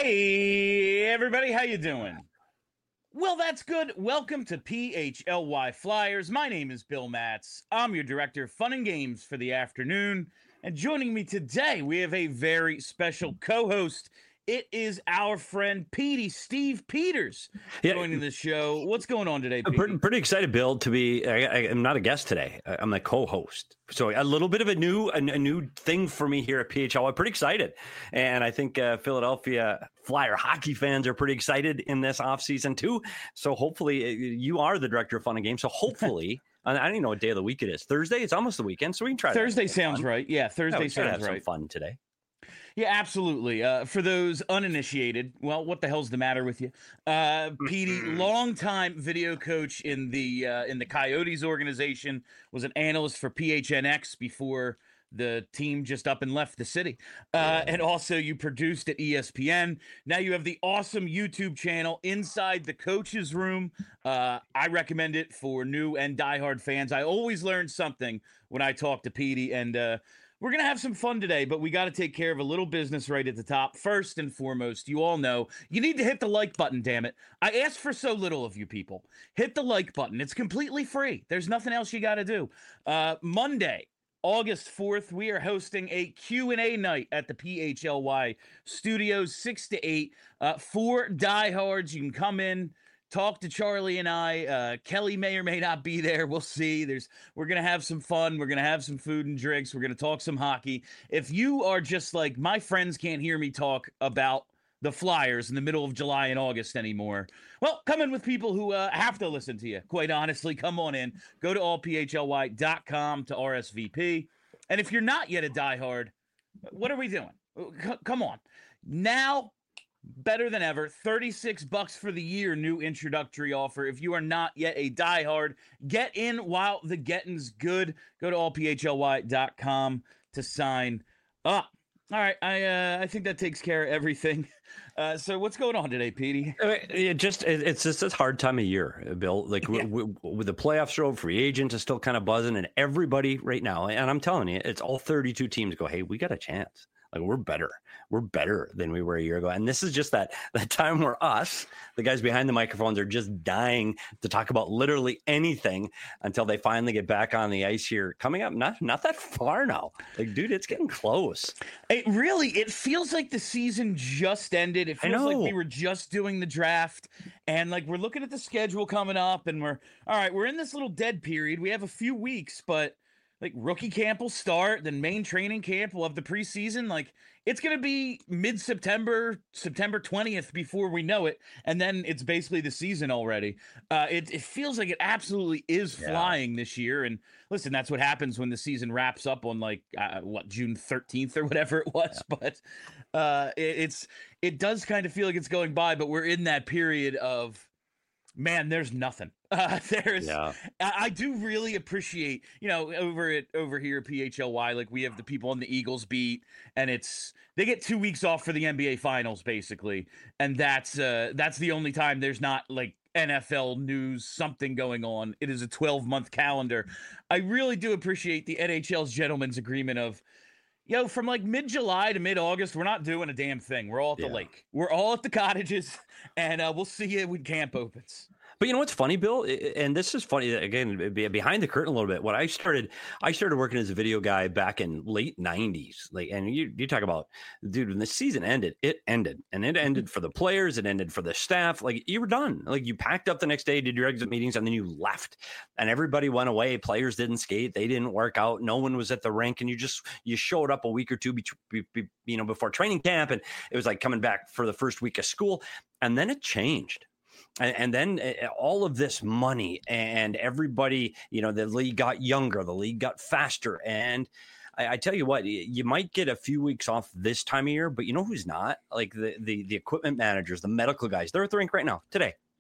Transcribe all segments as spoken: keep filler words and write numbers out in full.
Hey, everybody, how you doing? Well, that's good. Welcome to P H L Y Flyers. My name is Bill Matz. I'm your director of fun and games for the afternoon. And joining me today, we have a very special co-host. It is our friend Petey, Steve Peters, Yeah. joining the show. What's going on today, I'm Petey? pretty, pretty excited, Bill, to be. I, I, I'm not a guest today. I- I'm the co-host, so a little bit of a new, a, a new thing for me here at P H L. I'm pretty excited, and I think uh, Philadelphia Flyer hockey fans are pretty excited in this offseason too. So hopefully, uh, you are the director of fun and games. So hopefully, I don't even know what day of the week it is. Thursday. It's almost the weekend, so we can try. Thursday to sounds right. Yeah, Thursday yeah, we try to sounds have right. some fun today. Yeah, absolutely. Uh, for those uninitiated, well, what the hell's the matter with you? Uh, Petey, longtime video coach in the uh, in the Coyotes organization, was an analyst for P H N X before the team just up and left the city. Uh, and also you produced at E S P N. Now you have the awesome YouTube channel, Inside the Coach's Room. Uh, I recommend it for new and diehard fans. I always learn something when I talk to Petey, and uh, we're going to have some fun today, but we got to take care of a little business right at the top. First and foremost, you all know you need to hit the like button, damn it. I ask for so little of you people. Hit the like button. It's completely free. There's nothing else you got to do. Uh, Monday, August fourth, we are hosting a Q and A night at the P H L Y studios, six to eight. Uh, for diehards, you can come in, talk to Charlie and I. Uh, Kelly may or may not be there. We'll see. There's we're gonna have some fun. We're gonna have some food and drinks. We're gonna talk some hockey. If you are just like, my friends can't hear me talk about the Flyers in the middle of July and August anymore, well, come in with people who uh, have to listen to you. Quite honestly, come on in. Go to all p h l y dot com to R S V P. And if you're not yet a diehard, what are we doing? C- come on. Now, better than ever, thirty-six bucks for the year, new introductory offer. If you are not yet a diehard, get in while the getting's good. Go to all p h l y dot com to sign up. All right, I uh, I think that takes care of everything. Uh, so what's going on today, Petey? It just it, it's just a hard time of year, Bill. Like yeah. w- w- with the playoffs are over, free agents is still kind of buzzing, and everybody right now, and I'm telling you, it's all thirty-two teams go, hey, we got a chance. Like we're better. We're better than we were a year ago. And this is just that that time where us, the guys behind the microphones, are just dying to talk about literally anything until they finally get back on the ice here. Coming up, not not that far now. Like, dude, it's getting close. It really, it feels like the season just ended. It feels like we were just doing the draft. And like we're looking at the schedule coming up, and we're all right, we're in this little dead period. We have a few weeks, but like rookie camp will start, then main training camp will have the preseason. Like it's going to be mid-September, September twentieth before we know it. And then it's basically the season already. Uh, it, it feels like it absolutely is flying yeah. this year. And listen, that's what happens when the season wraps up on like, uh, what, June thirteenth or whatever it was. Yeah. But uh, it, it's, it does kind of feel like it's going by, but we're in that period of, man, there's nothing. Uh, there's, yeah. I, I do really appreciate, you know, over at over here at P H L Y, like we have the people on the Eagles beat, and it's they get two weeks off for the N B A Finals basically, and that's uh, that's the only time there's not like N F L news, something going on. It is a twelve month calendar. I really do appreciate the N H L's gentleman's agreement of, yo, from like mid-July to mid-August, we're not doing a damn thing. We're all at the yeah. lake. We're all at the cottages, and uh, we'll see you when camp opens. But you know what's funny, Bill? And this is funny, again, behind the curtain a little bit. When I started, I started working as a video guy back in late nineties. Like, and you, you talk about, dude, when the season ended, it ended. And it ended for the players. It ended for the staff. Like, you were done. Like, you packed up the next day, did your exit meetings, and then you left. And everybody went away. Players didn't skate. They didn't work out. No one was at the rink. And you just, you showed up a week or two, be, be, be, you know, before training camp. And it was like coming back for the first week of school. And then it changed. And, and then uh, all of this money and everybody, you know, the league got younger, the league got faster. And I, I tell you what, you might get a few weeks off this time of year, but you know who's not? Like the the the equipment managers, the medical guys, they're at the rink right now today.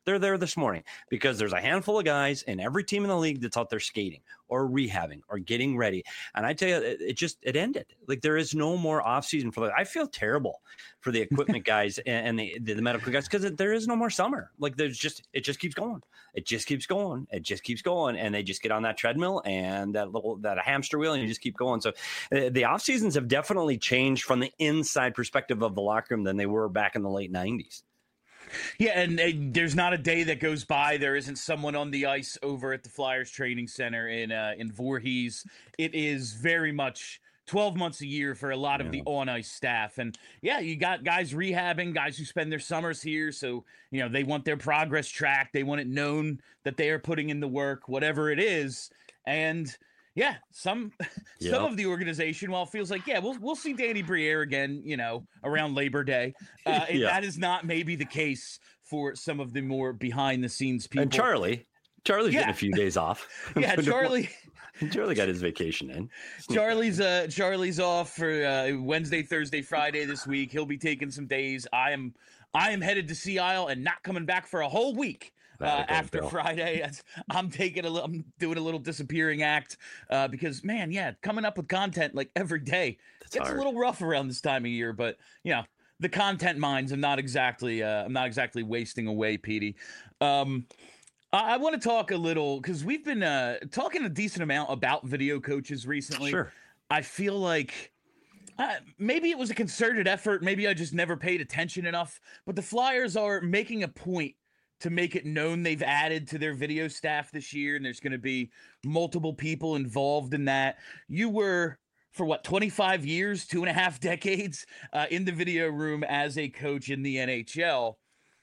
They're there this morning because there's a handful of guys in every team in the league that's out there skating or rehabbing or getting ready. And I tell you, it, it just, it ended. Like there is no more off season for the, I feel terrible for the equipment guys and, and the, the, the medical guys because there is no more summer. Like there's just, it just keeps going. It just keeps going. It just keeps going. And they just get on that treadmill and that little, that hamster wheel and you just keep going. So uh, the off seasons have definitely changed from the inside perspective of the locker room than they were back in the late nineties. Yeah, and, and there's not a day that goes by there isn't someone on the ice over at the Flyers Training Center in uh, in Voorhees. It is very much twelve months a year for a lot of yeah. the on-ice staff. And, yeah, you got guys rehabbing, guys who spend their summers here. So, you know, they want their progress tracked. They want it known that they are putting in the work, whatever it is. And – yeah, some yep. some of the organization, while it feels like, yeah, we'll we'll see Danny Briere again, you know, around Labor Day. Uh, yeah. That is not maybe the case for some of the more behind the scenes people. And Charlie, Charlie's yeah. getting a few days off. Yeah, Charlie. Charlie got his vacation in. Charlie's uh Charlie's off for uh, Wednesday, Thursday, Friday this week. He'll be taking some days. I am I am headed to Sea Isle and not coming back for a whole week. Uh, after Bill. Friday, I'm taking a little, I'm doing a little disappearing act uh, because, man, yeah, coming up with content like every day That's gets hard. a little rough around this time of year. But you know, the content mines, I'm not exactly, uh, I'm not exactly wasting away, Petey. Um, I, I want to talk a little because we've been uh, talking a decent amount about video coaches recently. Sure. I feel like. Uh, maybe it was a concerted effort. Maybe I just never paid attention enough. But the Flyers are making a point to make it known they've added to their video staff this year, and there's going to be multiple people involved in that. You were, for what, twenty-five years, two and a half decades uh, in the video room as a coach in the N H L.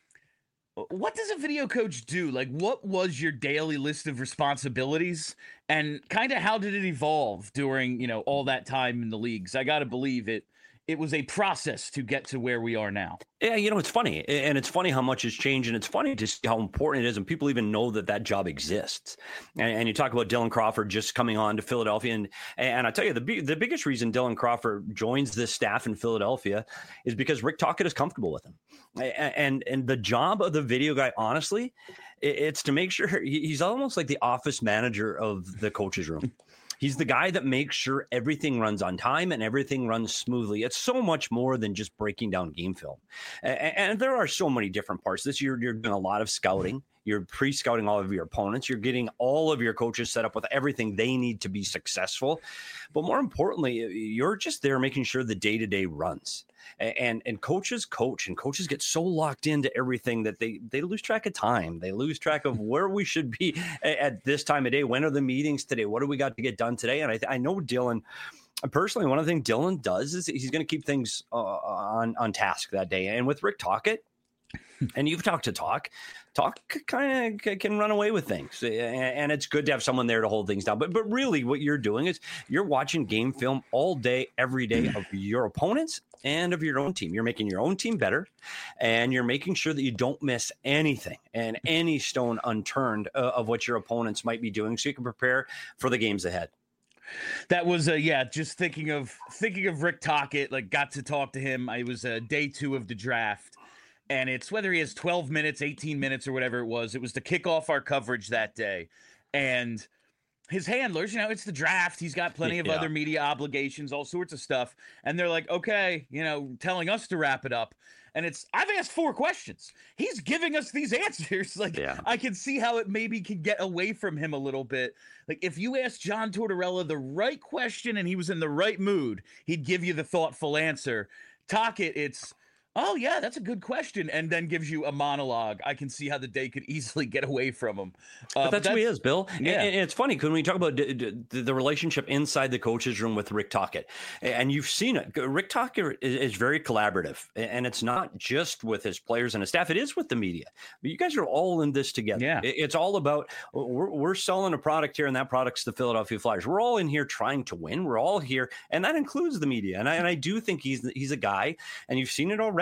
What does a video coach do? Like, what was your daily list of responsibilities, and kind of how did it evolve during, you know, all that time in the leagues? I got to believe it. It was a process to get to where we are now. Yeah, you know, it's funny. And it's funny how much has changed. And it's funny to see how important it is. And people even know that that job exists. And, and you talk about Dylan Crawford just coming on to Philadelphia. And and I tell you, the, the biggest reason Dylan Crawford joins this staff in Philadelphia is because Rick Tocchet is comfortable with him. And, and the job of the video guy, honestly, it's to make sure he's almost like the office manager of the coach's room. He's the guy that makes sure everything runs on time and everything runs smoothly. It's so much more than just breaking down game film. And, and there are so many different parts. This year, you're doing a lot of scouting. You're pre-scouting all of your opponents. You're getting all of your coaches set up with everything they need to be successful. But more importantly, you're just there making sure the day-to-day runs. And and coaches coach and coaches get so locked into everything that they, they lose track of time. They lose track of where we should be at this time of day. When are the meetings today? What do we got to get done today? And I, I know Dylan, personally, one of the things Dylan does is he's going to keep things uh, on, on task that day. And with Rick Tocchet, and you've talked to Talk, Talk kind of can run away with things. And it's good to have someone there to hold things down. But but really what you're doing is you're watching game film all day, every day of your opponents and of your own team. You're making your own team better, and you're making sure that you don't miss anything and any stone unturned uh, of what your opponents might be doing so you can prepare for the games ahead. That was, uh, yeah, just thinking of thinking of Rick Tocchet, like got to talk to him. I was uh, day two of the draft. And it's whether he has twelve minutes, eighteen minutes, or whatever it was. It was to kick off our coverage that day. And his handlers, you know, it's the draft. He's got plenty of yeah. other media obligations, all sorts of stuff. And they're like, okay, you know, telling us to wrap it up. And it's, I've asked four questions. He's giving us these answers. Like, yeah. I can see how it maybe can get away from him a little bit. Like, if you asked John Tortorella the right question and he was in the right mood, he'd give you the thoughtful answer. Tocchet, it's, oh, yeah, that's a good question, and then gives you a monologue. I can see how the day could easily get away from him. Uh, but that's, that's who he is, Bill. Yeah. And, and it's funny, when we talk about d- d- the relationship inside the coach's room with Rick Tocchet, and you've seen it. Rick Tocchet is, is very collaborative, and it's not just with his players and his staff. It is with the media. But you guys are all in this together. Yeah. It, it's all about, we're, we're selling a product here, and that product's the Philadelphia Flyers. We're all in here trying to win. We're all here, and that includes the media. And I, and I do think he's he's a guy, and you've seen it already.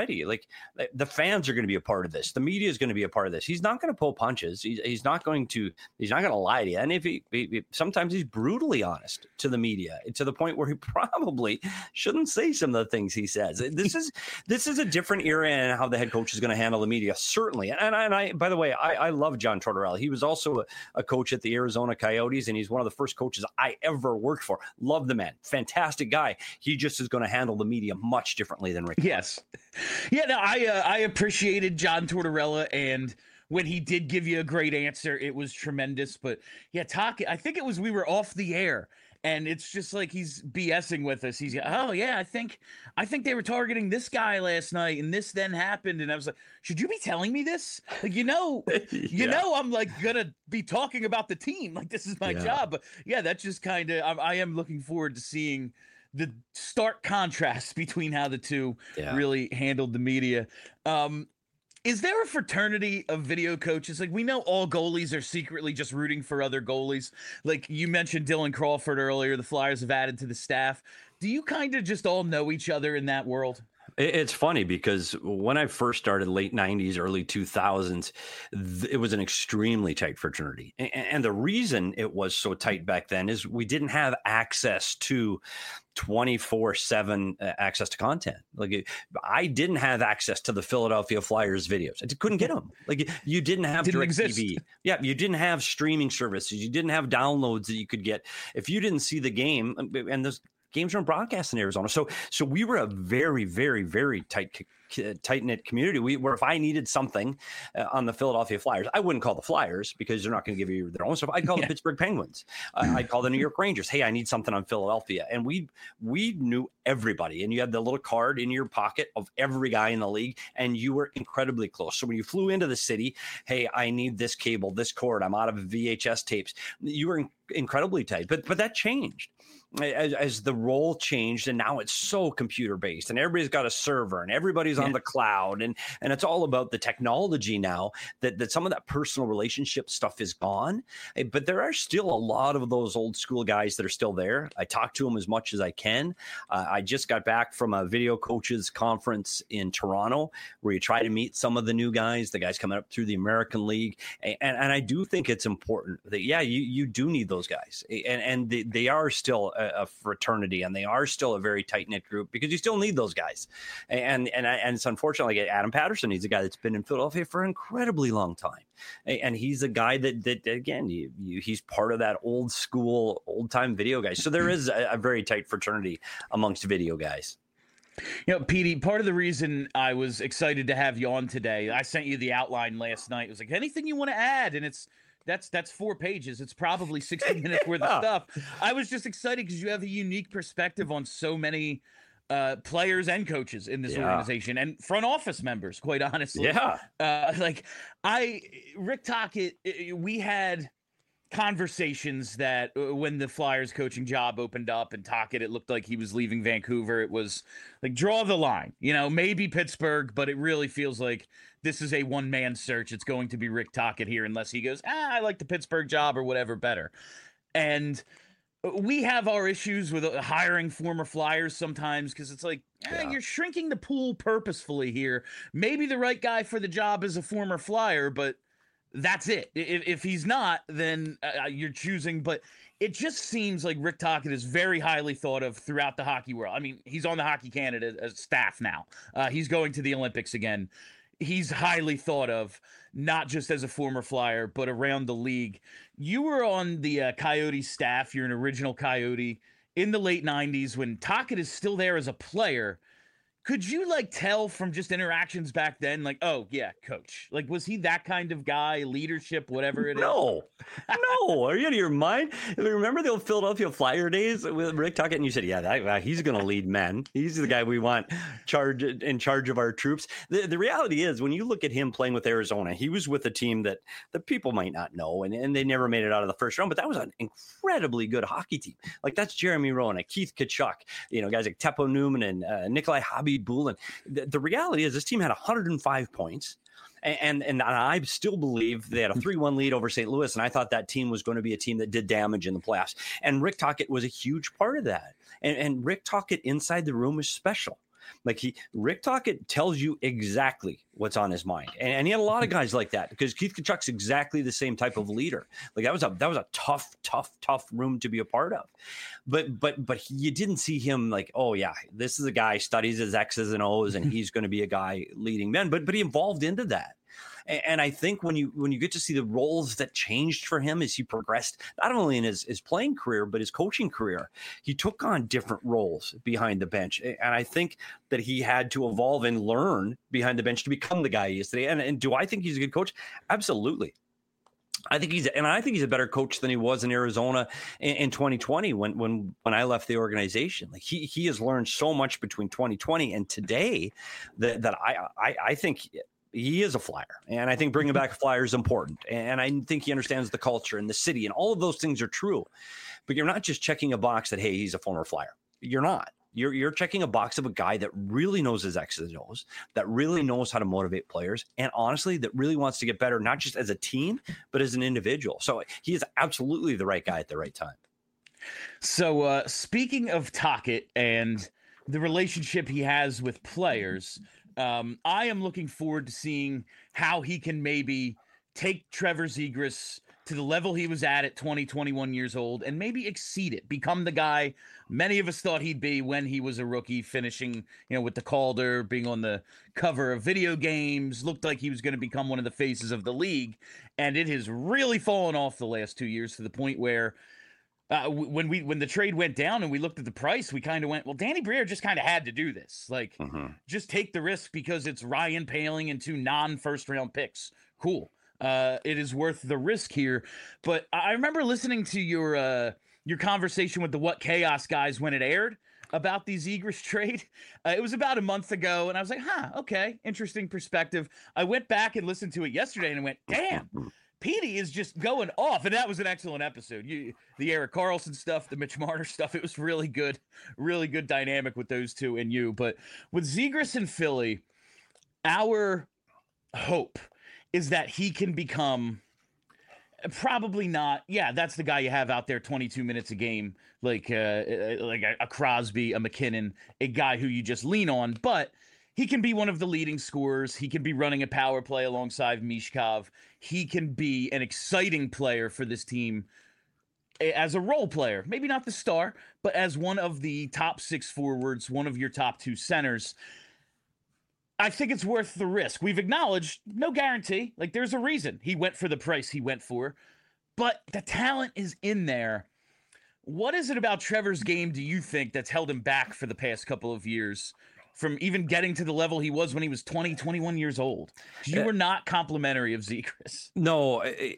already. Like the fans are going to be a part of this. The media is going to be a part of this. He's not going to pull punches. He's, he's not going to. He's not going to lie to you. And if he, he sometimes he's brutally honest to the media to the point where he probably shouldn't say some of the things he says. This is this is a different era in how the head coach is going to handle the media, certainly. And, and I, by the way, I, I love John Tortorella. He was also a, a coach at the Arizona Coyotes, and he's one of the first coaches I ever worked for. Love the man. Fantastic guy. He just is going to handle the media much differently than Rick. Yes. Yeah, no, I uh, I appreciated John Tortorella, and when he did give you a great answer, it was tremendous. But yeah, talking, I think it was we were off the air, and it's just like he's BSing with us. He's, oh yeah, I think I think they were targeting this guy last night, and this then happened. And I was like, should you be telling me this? Like, you know, yeah. you know, I'm like gonna be talking about the team. Like, this is my yeah. job. But yeah, that's just kind of. I, I am looking forward to seeing the stark contrast between how the two yeah. really handled the media. Um, Is there a fraternity of video coaches? Like, we know all goalies are secretly just rooting for other goalies. Like you mentioned Dylan Crawford earlier, the Flyers have added to the staff. Do you kind of just all know each other in that world? It's funny because when I first started, late nineties, early two thousands, it was an extremely tight fraternity. And the reason it was so tight back then is we didn't have access to twenty-four seven access to content. Like, I didn't have access to the Philadelphia Flyers videos. I couldn't get them. Like, you didn't have didn't direct exist. T V. Yeah, you didn't have streaming services. You didn't have downloads that you could get. If you didn't see the game, and those games weren't broadcast in Arizona. So so we were a very, very, very tight tight-knit community. We where if I needed something uh, on the Philadelphia Flyers, I wouldn't call the Flyers because they're not going to give you their own stuff. I'd call yeah. the Pittsburgh Penguins. Uh, I'd call the New York Rangers. Hey, I need something on Philadelphia. And we we knew everybody. And you had the little card in your pocket of every guy in the league, and you were incredibly close. So when you flew into the city, hey, I need this cable, this cord. I'm out of V H S tapes. You were in- incredibly tight. But but that changed. As, as the role changed, and now it's so computer based, and everybody's got a server, and everybody's yeah. on the cloud, and and it's all about the technology now. That that some of that personal relationship stuff is gone, but there are still a lot of those old school guys that are still there. I talk to them as much as I can. Uh, I just got back from a video coaches conference in Toronto where you try to meet some of the new guys, the guys coming up through the American League, and and I do think it's important that yeah, you you do need those guys, and and they, they are still a, a fraternity, and they are still a very tight-knit group because you still need those guys. And and and it's unfortunately like Adam Patterson. He's a guy that's been in Philadelphia for an incredibly long time, and he's a guy that that again you, you, he's part of that old school, old time video guys. So there is a, a very tight fraternity amongst video guys. You know, Petey, part of the reason I was excited to have you on today, I sent you the outline last night. It was like, anything you want to add, and it's. That's that's four pages. It's probably sixty minutes worth of stuff. I was just excited because you have a unique perspective on so many uh, players and coaches in this yeah. organization, and front office members, quite honestly. Yeah. Uh, like I, Rick Tocchet, we had conversations that uh, when the Flyers coaching job opened up and Tocchet, it looked like he was leaving Vancouver. It was like, draw the line, you know, maybe Pittsburgh, but it really feels like this is a one-man search. It's going to be Rick Tocchet here unless he goes, ah, I like the Pittsburgh job or whatever better. And we have our issues with hiring former Flyers sometimes because it's like, eh, yeah. you're shrinking the pool purposefully here. Maybe the right guy for the job is a former Flyer, but that's it. If, if he's not, then uh, you're choosing. But it just seems like Rick Tocchet is very highly thought of throughout the hockey world. I mean, he's on the Hockey Canada as staff now. Uh, he's going to the Olympics again. He's highly thought of, not just as a former Flyer, but around the league. You were on the uh, Coyote staff. You're an original Coyote in the late nineties when Tocchet is still there as a player. Could you like tell from just interactions back then, like, oh yeah, coach, like, was he that kind of guy, leadership, whatever it no. is? No, are you out of your mind? Remember the old Philadelphia Flyer days with Rick Tocchet? And you said, yeah, that, uh, he's going to lead men. He's the guy we want charge in charge of our troops. The, the reality is, when you look at him playing with Arizona, he was with a team that the people might not know, and, and they never made it out of the first round, but that was an incredibly good hockey team. Like, that's Jeremy Rowan, Keith Tkachuk, you know, guys like Teppo Newman and uh, Nikolai Hobby Bulin. The, the reality is this team had one hundred five points, and, and and I still believe they had a three one lead over Saint Louis, and I thought that team was going to be a team that did damage in the playoffs. And Rick Tocchet was a huge part of that. And, and Rick Tocchet inside the room was special. Like he, Rick Tocchet tells you exactly what's on his mind, and, and he had a lot of guys like that because Keith Tkachuk's exactly the same type of leader. Like that was a that was a tough, tough, tough room to be a part of. But but but he, you didn't see him like, oh yeah, this is a guy studies his X's and O's, and he's going to be a guy leading men. But but he evolved into that. And I think when you when you get to see the roles that changed for him as he progressed, not only in his, his playing career, but his coaching career, he took on different roles behind the bench. And I think that he had to evolve and learn behind the bench to become the guy he is today. And, and do I think he's a good coach? Absolutely. I think he's, and I think he's a better coach than he was in Arizona in, in twenty twenty when, when, when I left the organization. Like he, he has learned so much between twenty twenty and today that, that I, I, I think he is a Flyer. And I think bringing back a Flyer is important. And I think he understands the culture and the city and all of those things are true, but you're not just checking a box that, hey, he's a former Flyer. You're not. You're, you're checking a box of a guy that really knows his X's and O's, that really knows how to motivate players, and honestly, that really wants to get better, not just as a team, but as an individual. So he is absolutely the right guy at the right time. So uh, speaking of Tocchet and the relationship he has with players, um, I am looking forward to seeing how he can maybe take Trevor Zegras to the level he was at at twenty, twenty-one years old and maybe exceed it, become the guy many of us thought he'd be when he was a rookie, finishing, you know, with the Calder, being on the cover of video games, looked like he was going to become one of the faces of the league. And it has really fallen off the last two years to the point where uh, when we when the trade went down and we looked at the price, we kind of went, well, Danny Briere just kind of had to do this. Like, mm-hmm. just take the risk because it's Ryan Poehling and two non-first round picks. Cool. Uh, it is worth the risk here. But I remember listening to your uh, your conversation with the What Chaos guys when it aired about the Zegras trade. Uh, it was about a month ago, and I was like, huh, okay, interesting perspective. I went back and listened to it yesterday and went, damn, Petey is just going off. And that was an excellent episode. You, the Erik Karlsson stuff, the Mitch Marner stuff, it was really good, really good dynamic with those two and you. But with Zegras and Philly, our hope is that he can become probably not. Yeah, that's the guy you have out there twenty-two minutes a game, like uh, like a, a Crosby, a McKinnon, a guy who you just lean on. But he can be one of the leading scorers. He can be running a power play alongside Mishkov. He can be an exciting player for this team as a role player. Maybe not the star, but as one of the top six forwards, one of your top two centers. I think it's worth the risk. We've acknowledged no guarantee. Like, there's a reason he went for the price he went for, but the talent is in there. What is it about Trevor's game, do you think, that's held him back for the past couple of years from even getting to the level he was when he was twenty, twenty-one years old? You were not complimentary of Zegras. No, it,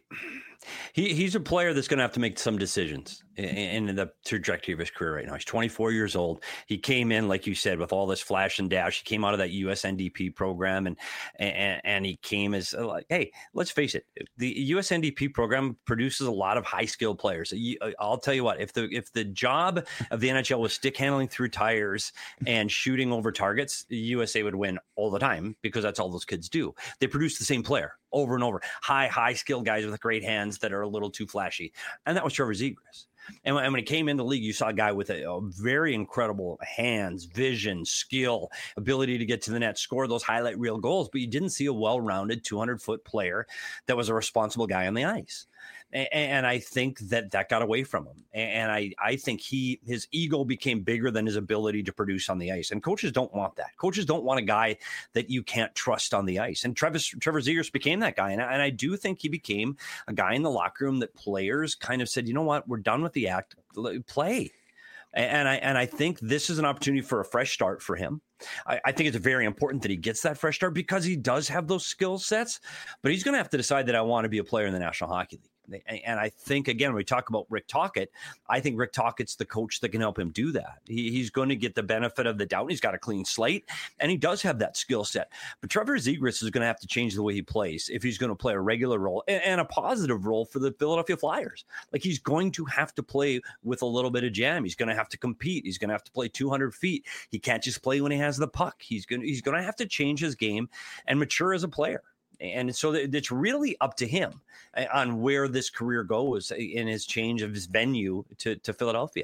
he he's a player that's going to have to make some decisions in, in the trajectory of his career right now. He's twenty-four years old. He came in, like you said, with all this flash and dash. He came out of that U S N D P program, and and, and he came as like, hey, let's face it, the U S N D P program produces a lot of high skilled players. I'll tell you what, if the if the job of the N H L was stick handling through tires and shooting over targets, U S A would win all the time because that's all those kids do. They produce the same player over and over. High, high skilled guys with great hands that are a little too flashy. And that was Trevor Zegras. And when, and when he came in the league, you saw a guy with a, a very incredible hands, vision, skill, ability to get to the net, score those highlight reel goals. But you didn't see a well-rounded two hundred foot player that was a responsible guy on the ice. And, and I think that that got away from him. And I, I think he his ego became bigger than his ability to produce on the ice. And coaches don't want that. Coaches don't want a guy that you can't trust on the ice. And Travis, Trevor Zegras became that guy. And I, and I do think he became a guy in the locker room that players kind of said, you know what, we're done with the act, play. And I and I think this is an opportunity for a fresh start for him. I, I think it's very important that he gets that fresh start because he does have those skill sets, but he's going to have to decide that I want to be a player in the National Hockey League. And I think, again, when we talk about Rick Tocchet, I think Rick Tocchet's the coach that can help him do that. He, he's going to get the benefit of the doubt. He's got a clean slate, and he does have that skill set. But Trevor Zegras is going to have to change the way he plays if he's going to play a regular role and, and a positive role for the Philadelphia Flyers. Like, he's going to have to play with a little bit of jam. He's going to have to compete. He's going to have to play two hundred feet. He can't just play when he has the puck. He's going to, he's going to have to change his game and mature as a player. And so it's really up to him on where this career goes in his change of his venue to, to Philadelphia.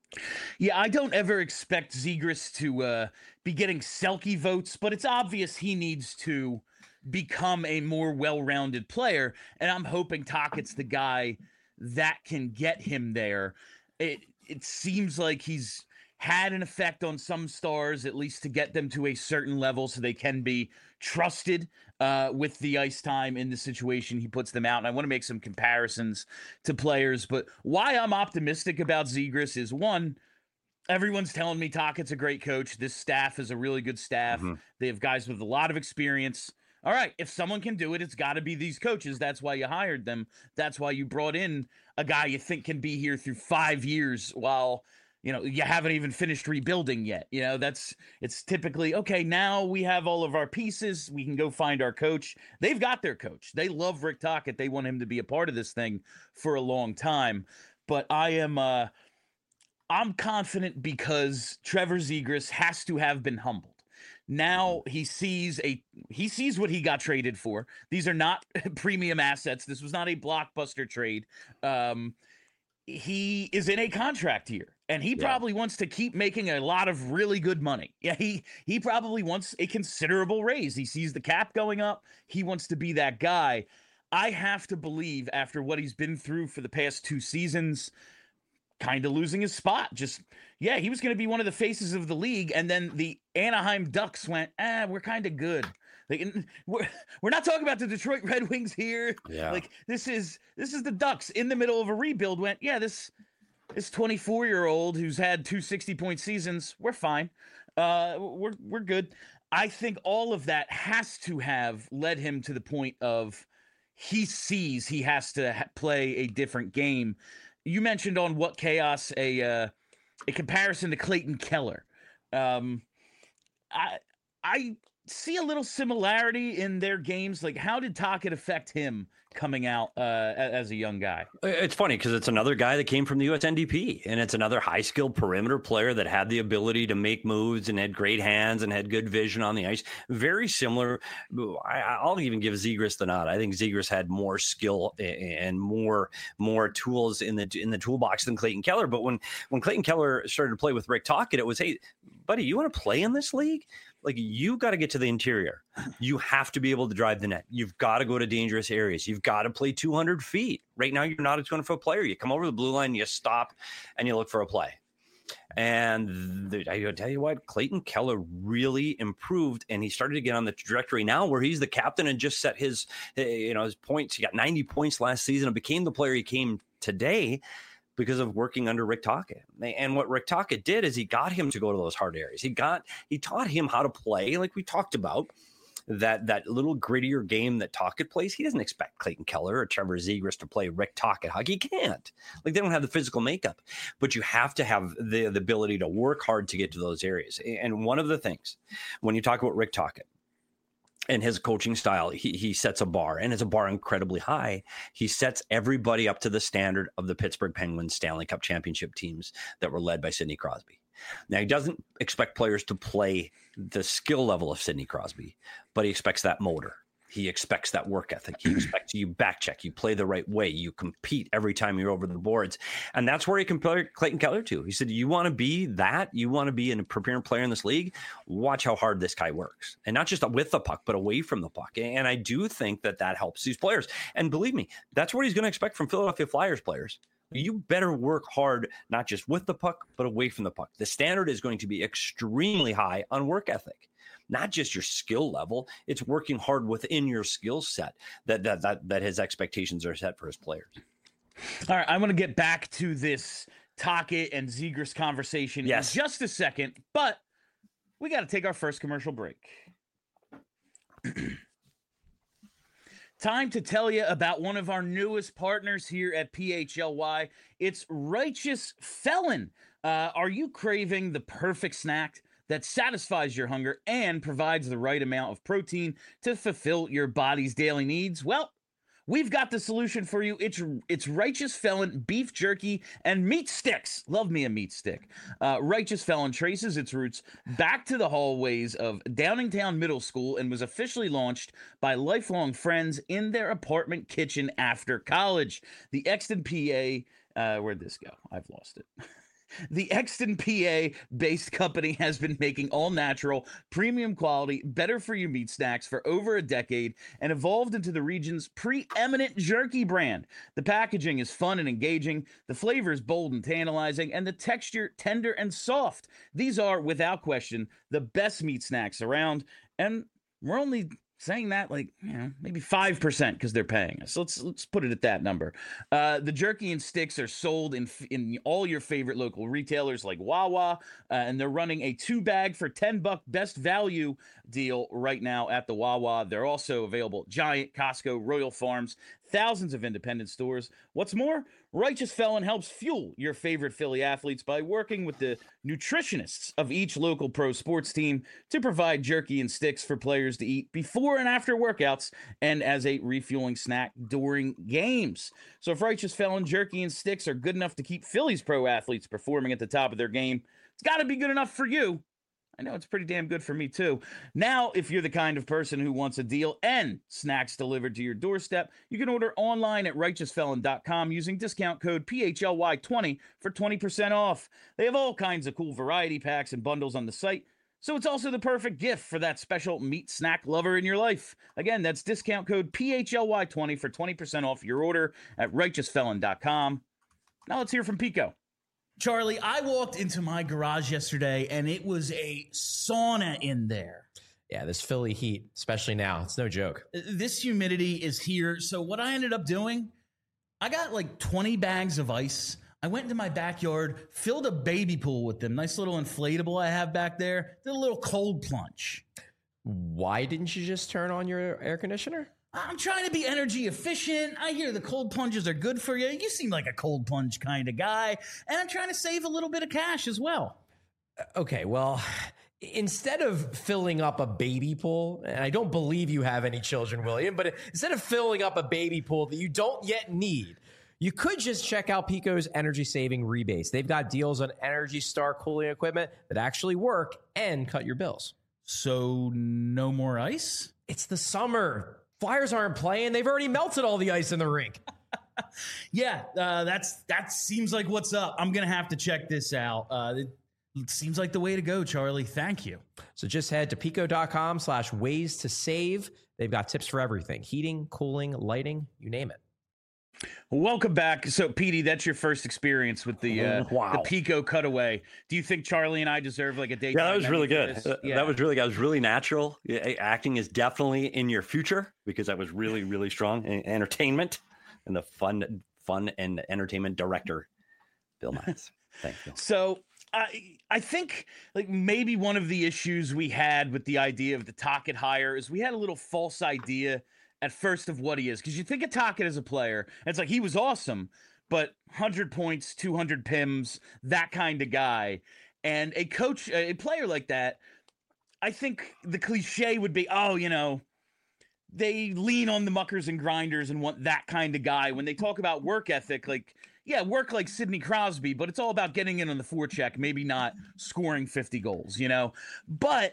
Yeah, I don't ever expect Zegras to uh, be getting Selke votes, but it's obvious he needs to become a more well-rounded player, and I'm hoping Tockett's the guy that can get him there. It it seems like he's had an effect on some stars, at least to get them to a certain level so they can be trusted uh, with the ice time in the situation he puts them out. And I want to make some comparisons to players, but why I'm optimistic about Zegras is, one, everyone's telling me Tockett's a great coach. This staff is a really good staff. Mm-hmm. They have guys with a lot of experience. All right, if someone can do it, it's got to be these coaches. That's why you hired them. That's why you brought in a guy you think can be here through five years while, you know, you haven't even finished rebuilding yet. You know, that's, it's typically, okay, now we have all of our pieces. We can go find our coach. They've got their coach. They love Rick Tocchet. They want him to be a part of this thing for a long time. But I am, uh, I'm confident because Trevor Zegras has to have been humbled. Now he sees a he sees what he got traded for. These are not premium assets. This was not a blockbuster trade. Um, he is in a contract year, and he Yeah. probably wants to keep making a lot of really good money. Yeah, he he probably wants a considerable raise. He sees the cap going up. He wants to be that guy. I have to believe, after what he's been through for the past two seasons, kind of losing his spot. Just, yeah, he was going to be one of the faces of the league. And then the Anaheim Ducks went, ah, we're kind of good. Like, we're, we're not talking about the Detroit Red Wings here. Yeah. Like, this is, this is the Ducks in the middle of a rebuild went, yeah, this, this twenty-four year old who's had two sixty point seasons, we're fine. Uh, we're, we're good. I think all of that has to have led him to the point of he sees he has to ha- play a different game. You mentioned on What Chaos a uh, a comparison to Clayton Keller. Um, I I see a little similarity in their games. Like, how did Tocchet affect him coming out uh, as a young guy? It's funny because it's another guy that came from the U S N D P, and it's another high-skilled perimeter player that had the ability to make moves and had great hands and had good vision on the ice. Very similar. I, I'll even give Zegras the nod. I think Zegras had more skill and more more tools in the in the toolbox than Clayton Keller. But when when Clayton Keller started to play with Rick Tocchet, it was, hey, buddy, you want to play in this league? Like, you got to get to the interior. You have to be able to drive the net. You've got to go to dangerous areas. You've got to play two hundred feet. Right now, you're not a two hundred foot player. You come over the blue line, you stop, and you look for a play. And the, I tell you what, Clayton Keller really improved, and he started to get on the trajectory now where he's the captain and just set his, you know, his points. He got ninety points last season and became the player he came today because of working under Rick Tocchet. And what Rick Tocchet did is he got him to go to those hard areas. He got, he taught him how to play, like we talked about, that that little grittier game that Tocchet plays. He doesn't expect Clayton Keller or Trevor Zegras to play Rick Tocchet hockey. He can't. Like, they don't have the physical makeup. But you have to have the, the ability to work hard to get to those areas. And one of the things, when you talk about Rick Tocchet, and his coaching style, he he sets a bar, and it's a bar incredibly high. He sets everybody up to the standard of the Pittsburgh Penguins Stanley Cup championship teams that were led by Sidney Crosby. Now, he doesn't expect players to play the skill level of Sidney Crosby, but he expects that motor. He expects that work ethic. He expects you back check. You play the right way. You compete every time you're over the boards. And that's where he compared Clayton Keller to. He said, you want to be that? You want to be a premier player in this league? Watch how hard this guy works. And not just with the puck, but away from the puck. And I do think that that helps these players. And believe me, that's what he's going to expect from Philadelphia Flyers players. You better work hard, not just with the puck, but away from the puck. The standard is going to be extremely high on work ethic. Not just your skill level, it's working hard within your skill set that that that that his expectations are set for his players. All right, I want to get back to this Tocchet and Zegras conversation yes. in just a second, but we got to take our first commercial break. Time to tell you about one of our newest partners here at P H L Y. It's Righteous Felon. Uh, are you craving the perfect snack that satisfies your hunger and provides the right amount of protein to fulfill your body's daily needs? Well, we've got the solution for you. It's it's Righteous Felon beef jerky and meat sticks. Love me a meat stick. Uh, Righteous Felon traces its roots back to the hallways of Downingtown Middle School and was officially launched by lifelong friends in their apartment kitchen after college. The Exton, P A, uh, where'd this go? I've lost it. The Exton, P A-based company has been making all-natural, premium quality, better-for-you meat snacks for over a decade and evolved into the region's preeminent jerky brand. The packaging is fun and engaging, the flavor is bold and tantalizing, and the texture tender and soft. These are, without question, the best meat snacks around, and we're only saying that like, you know, maybe five percent because they're paying us. Let's let's put it at that number. Uh, the jerky and sticks are sold in in all your favorite local retailers like Wawa, uh, and they're running a two bag for ten buck best value deal right now at the Wawa. They're also available at Giant, Costco, Royal Farms, thousands of independent stores. What's more, Righteous Felon helps fuel your favorite Philly athletes by working with the nutritionists of each local pro sports team to provide jerky and sticks for players to eat before and after workouts and as a refueling snack during games. So if Righteous Felon jerky and sticks are good enough to keep Philly's pro athletes performing at the top of their game, it's got to be good enough for you. I know it's pretty damn good for me, too. Now, if you're the kind of person who wants a deal and snacks delivered to your doorstep, you can order online at righteous felon dot com using discount code P H L Y twenty for twenty percent off. They have all kinds of cool variety packs and bundles on the site, so it's also the perfect gift for that special meat snack lover in your life. Again, that's discount code P H L Y twenty for twenty percent off your order at righteous felon dot com. Now let's hear from Pico. Charlie, I walked into my garage yesterday, and it was a sauna in there. Yeah, this Philly heat, especially now, it's no joke. This humidity is here. So what I ended up doing, I got like twenty bags of ice. I went into my backyard, filled a baby pool with them. Nice little inflatable I have back there. Did a little cold plunge. Why didn't you just turn on your air conditioner? I'm trying to be energy efficient. I hear the cold plunges are good for you. You seem like a cold plunge kind of guy. And I'm trying to save a little bit of cash as well. Okay, well, instead of filling up a baby pool, and I don't believe you have any children, William, but instead of filling up a baby pool that you don't yet need, you could just check out Pico's energy saving rebates. They've got deals on Energy Star cooling equipment that actually work and cut your bills. So no more ice? It's the summer. Flyers aren't playing. They've already melted all the ice in the rink. yeah, uh, that's that seems like what's up. I'm going to have to check this out. Uh, it, it seems like the way to go, Charlie. Thank you. So just head to pico.com slash ways to save. They've got tips for everything. Heating, cooling, lighting, you name it. Welcome back. So, Petey, that's your first experience with the uh, wow. the Pico cutaway. Do you think Charlie and I deserve like a date? Yeah, that was really good. Yeah. That was really good. That was really natural. Yeah, acting is definitely in your future because that was really, really strong. And entertainment and the fun, fun and entertainment director, Bill Miles. Thanks, Bill. So, I I think like maybe one of the issues we had with the idea of the Tocchet hire is we had a little false idea at first of what he is, because you think of Tocchet as a player, and it's like he was awesome, but one hundred points, two hundred P I Ms, that kind of guy. And a coach, a player like that, I think the cliche would be, oh, you know, they lean on the muckers and grinders and want that kind of guy. When they talk about work ethic, like, yeah, work like Sidney Crosby, but it's all about getting in on the forecheck, maybe not scoring fifty goals, you know? But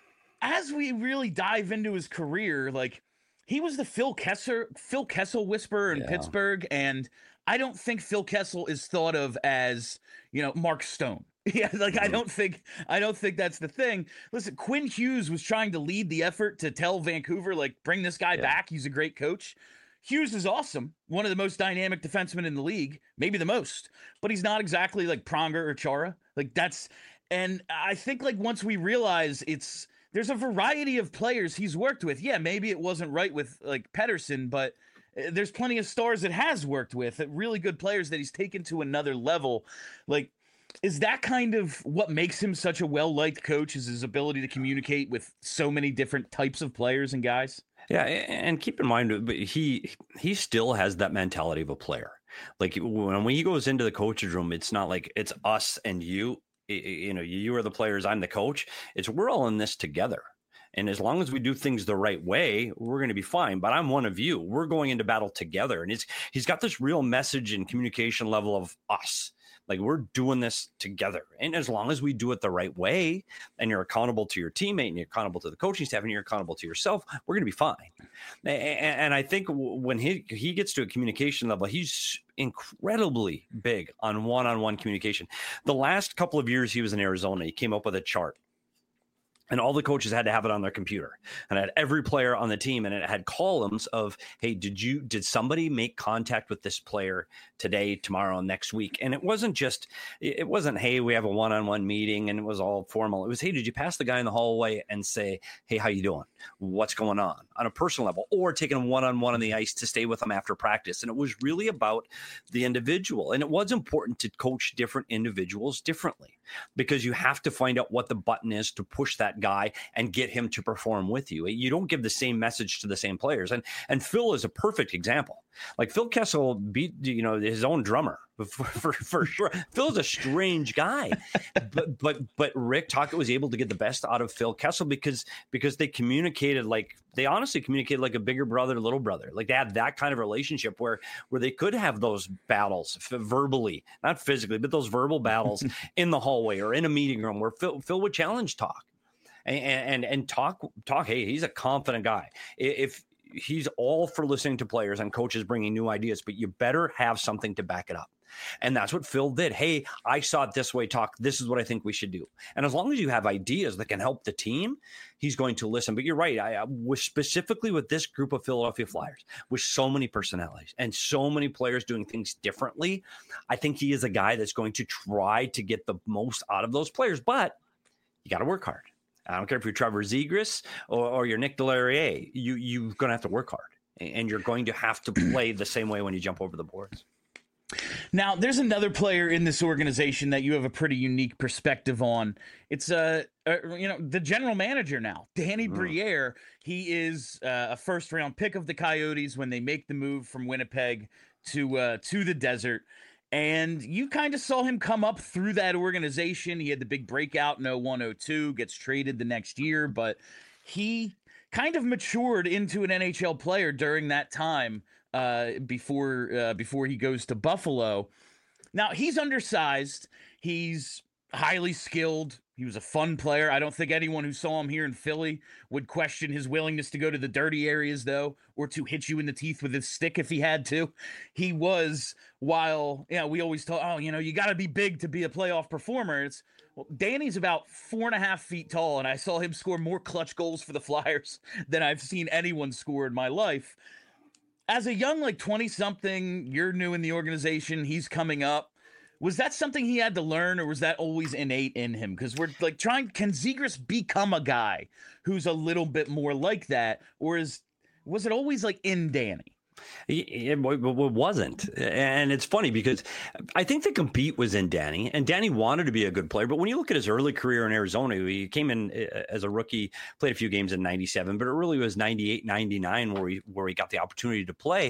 as we really dive into his career, like, he was the Phil Kessel, Phil Kessel whisperer in yeah. Pittsburgh, and I don't think Phil Kessel is thought of as, you know, Mark Stone. Yeah, like mm-hmm. I don't think I don't think that's the thing. Listen, Quinn Hughes was trying to lead the effort to tell Vancouver, like, bring this guy yeah. back. He's a great coach. Hughes is awesome, one of the most dynamic defensemen in the league, maybe the most, but he's not exactly like Pronger or Chara. Like that's, and I think like once we realize it's. There's a variety of players he's worked with. Yeah, maybe it wasn't right with like Pettersson, but there's plenty of stars that has worked with, really good players that he's taken to another level. Like, is that kind of what makes him such a well-liked coach, is his ability to communicate with so many different types of players and guys? Yeah, and keep in mind, he he still has that mentality of a player. Like when he goes into the coach's room, it's not like it's us and you. You know, you are the players, I'm the coach. It's we're all in this together. And as long as we do things the right way, we're going to be fine. But I'm one of you. We're going into battle together. And it's he's got this real message and communication level of us. Like, we're doing this together. And as long as we do it the right way, and you're accountable to your teammate, and you're accountable to the coaching staff, and you're accountable to yourself, we're going to be fine. And, and I think when he, he gets to a communication level, he's incredibly big on one-on-one communication. The last couple of years he was in Arizona, he came up with a chart. And all the coaches had to have it on their computer, and it had every player on the team, and it had columns of, hey, did you, did somebody make contact with this player today, tomorrow, next week? And it wasn't just, it wasn't, hey, we have a one-on-one meeting and it was all formal. It was, hey, did you pass the guy in the hallway and say, hey, how you doing? What's going on on a personal level, or taking a one-on-one on the ice to stay with them after practice? And it was really about the individual. And it was important to coach different individuals differently, because you have to find out what the button is to push that guy and get him to perform with you. You don't give the same message to the same players. And and Phil is a perfect example. Like, Phil Kessel beat, you know, his own drummer for, for, for sure. Phil's a strange guy, but but but Rick Tocchet was able to get the best out of Phil Kessel because because they communicated like they honestly communicated like a bigger brother, little brother. Like, they had that kind of relationship where where they could have those battles verbally, not physically, but those verbal battles in the hallway or in a meeting room where Phil Phil would challenge Toc. And, and and talk talk. Hey, he's a confident guy. If he's all for listening to players and coaches bringing new ideas, but you better have something to back it up. And that's what Phil did. Hey, I saw it this way, Toc. This is what I think we should do. And as long as you have ideas that can help the team, he's going to listen. But you're right. I, I was specifically with this group of Philadelphia Flyers, with so many personalities and so many players doing things differently, I think he is a guy that's going to try to get the most out of those players. But you got to work hard. I don't care if you're Trevor Zegras or, or you're Nick Deslauriers, you, you're going to have to work hard, and you're going to have to play the same way when you jump over the boards. Now, there's another player in this organization that you have a pretty unique perspective on. It's uh, uh you know, the general manager now, Danny mm. Briere. He is uh, a first round pick of the Coyotes when they make the move from Winnipeg to uh, to the desert. And you kind of saw him come up through that organization. He had the big breakout in oh one oh two, gets traded the next year, but he kind of matured into an N H L player during that time uh, before uh, before he goes to Buffalo. Now, he's undersized. He's highly skilled. He was a fun player. I don't think anyone who saw him here in Philly would question his willingness to go to the dirty areas, though, or to hit you in the teeth with his stick if he had to. He was, while, you know, we always talk, oh, you know, you got to be big to be a playoff performer. It's, well, Danny's about four and a half feet tall, and I saw him score more clutch goals for the Flyers than I've seen anyone score in my life. As a young, like, twenty-something, you're new in the organization, he's coming up. Was that something he had to learn, or was that always innate in him? Because we're like trying, can Zegras become a guy who's a little bit more like that, or is was it always like in Danny? It, it wasn't. And it's funny because I think the compete was in Danny, and Danny wanted to be a good player. But when you look at his early career in Arizona, he came in as a rookie, played a few games in ninety-seven, but it really was ninety-eight, ninety-nine where he, where he got the opportunity to play.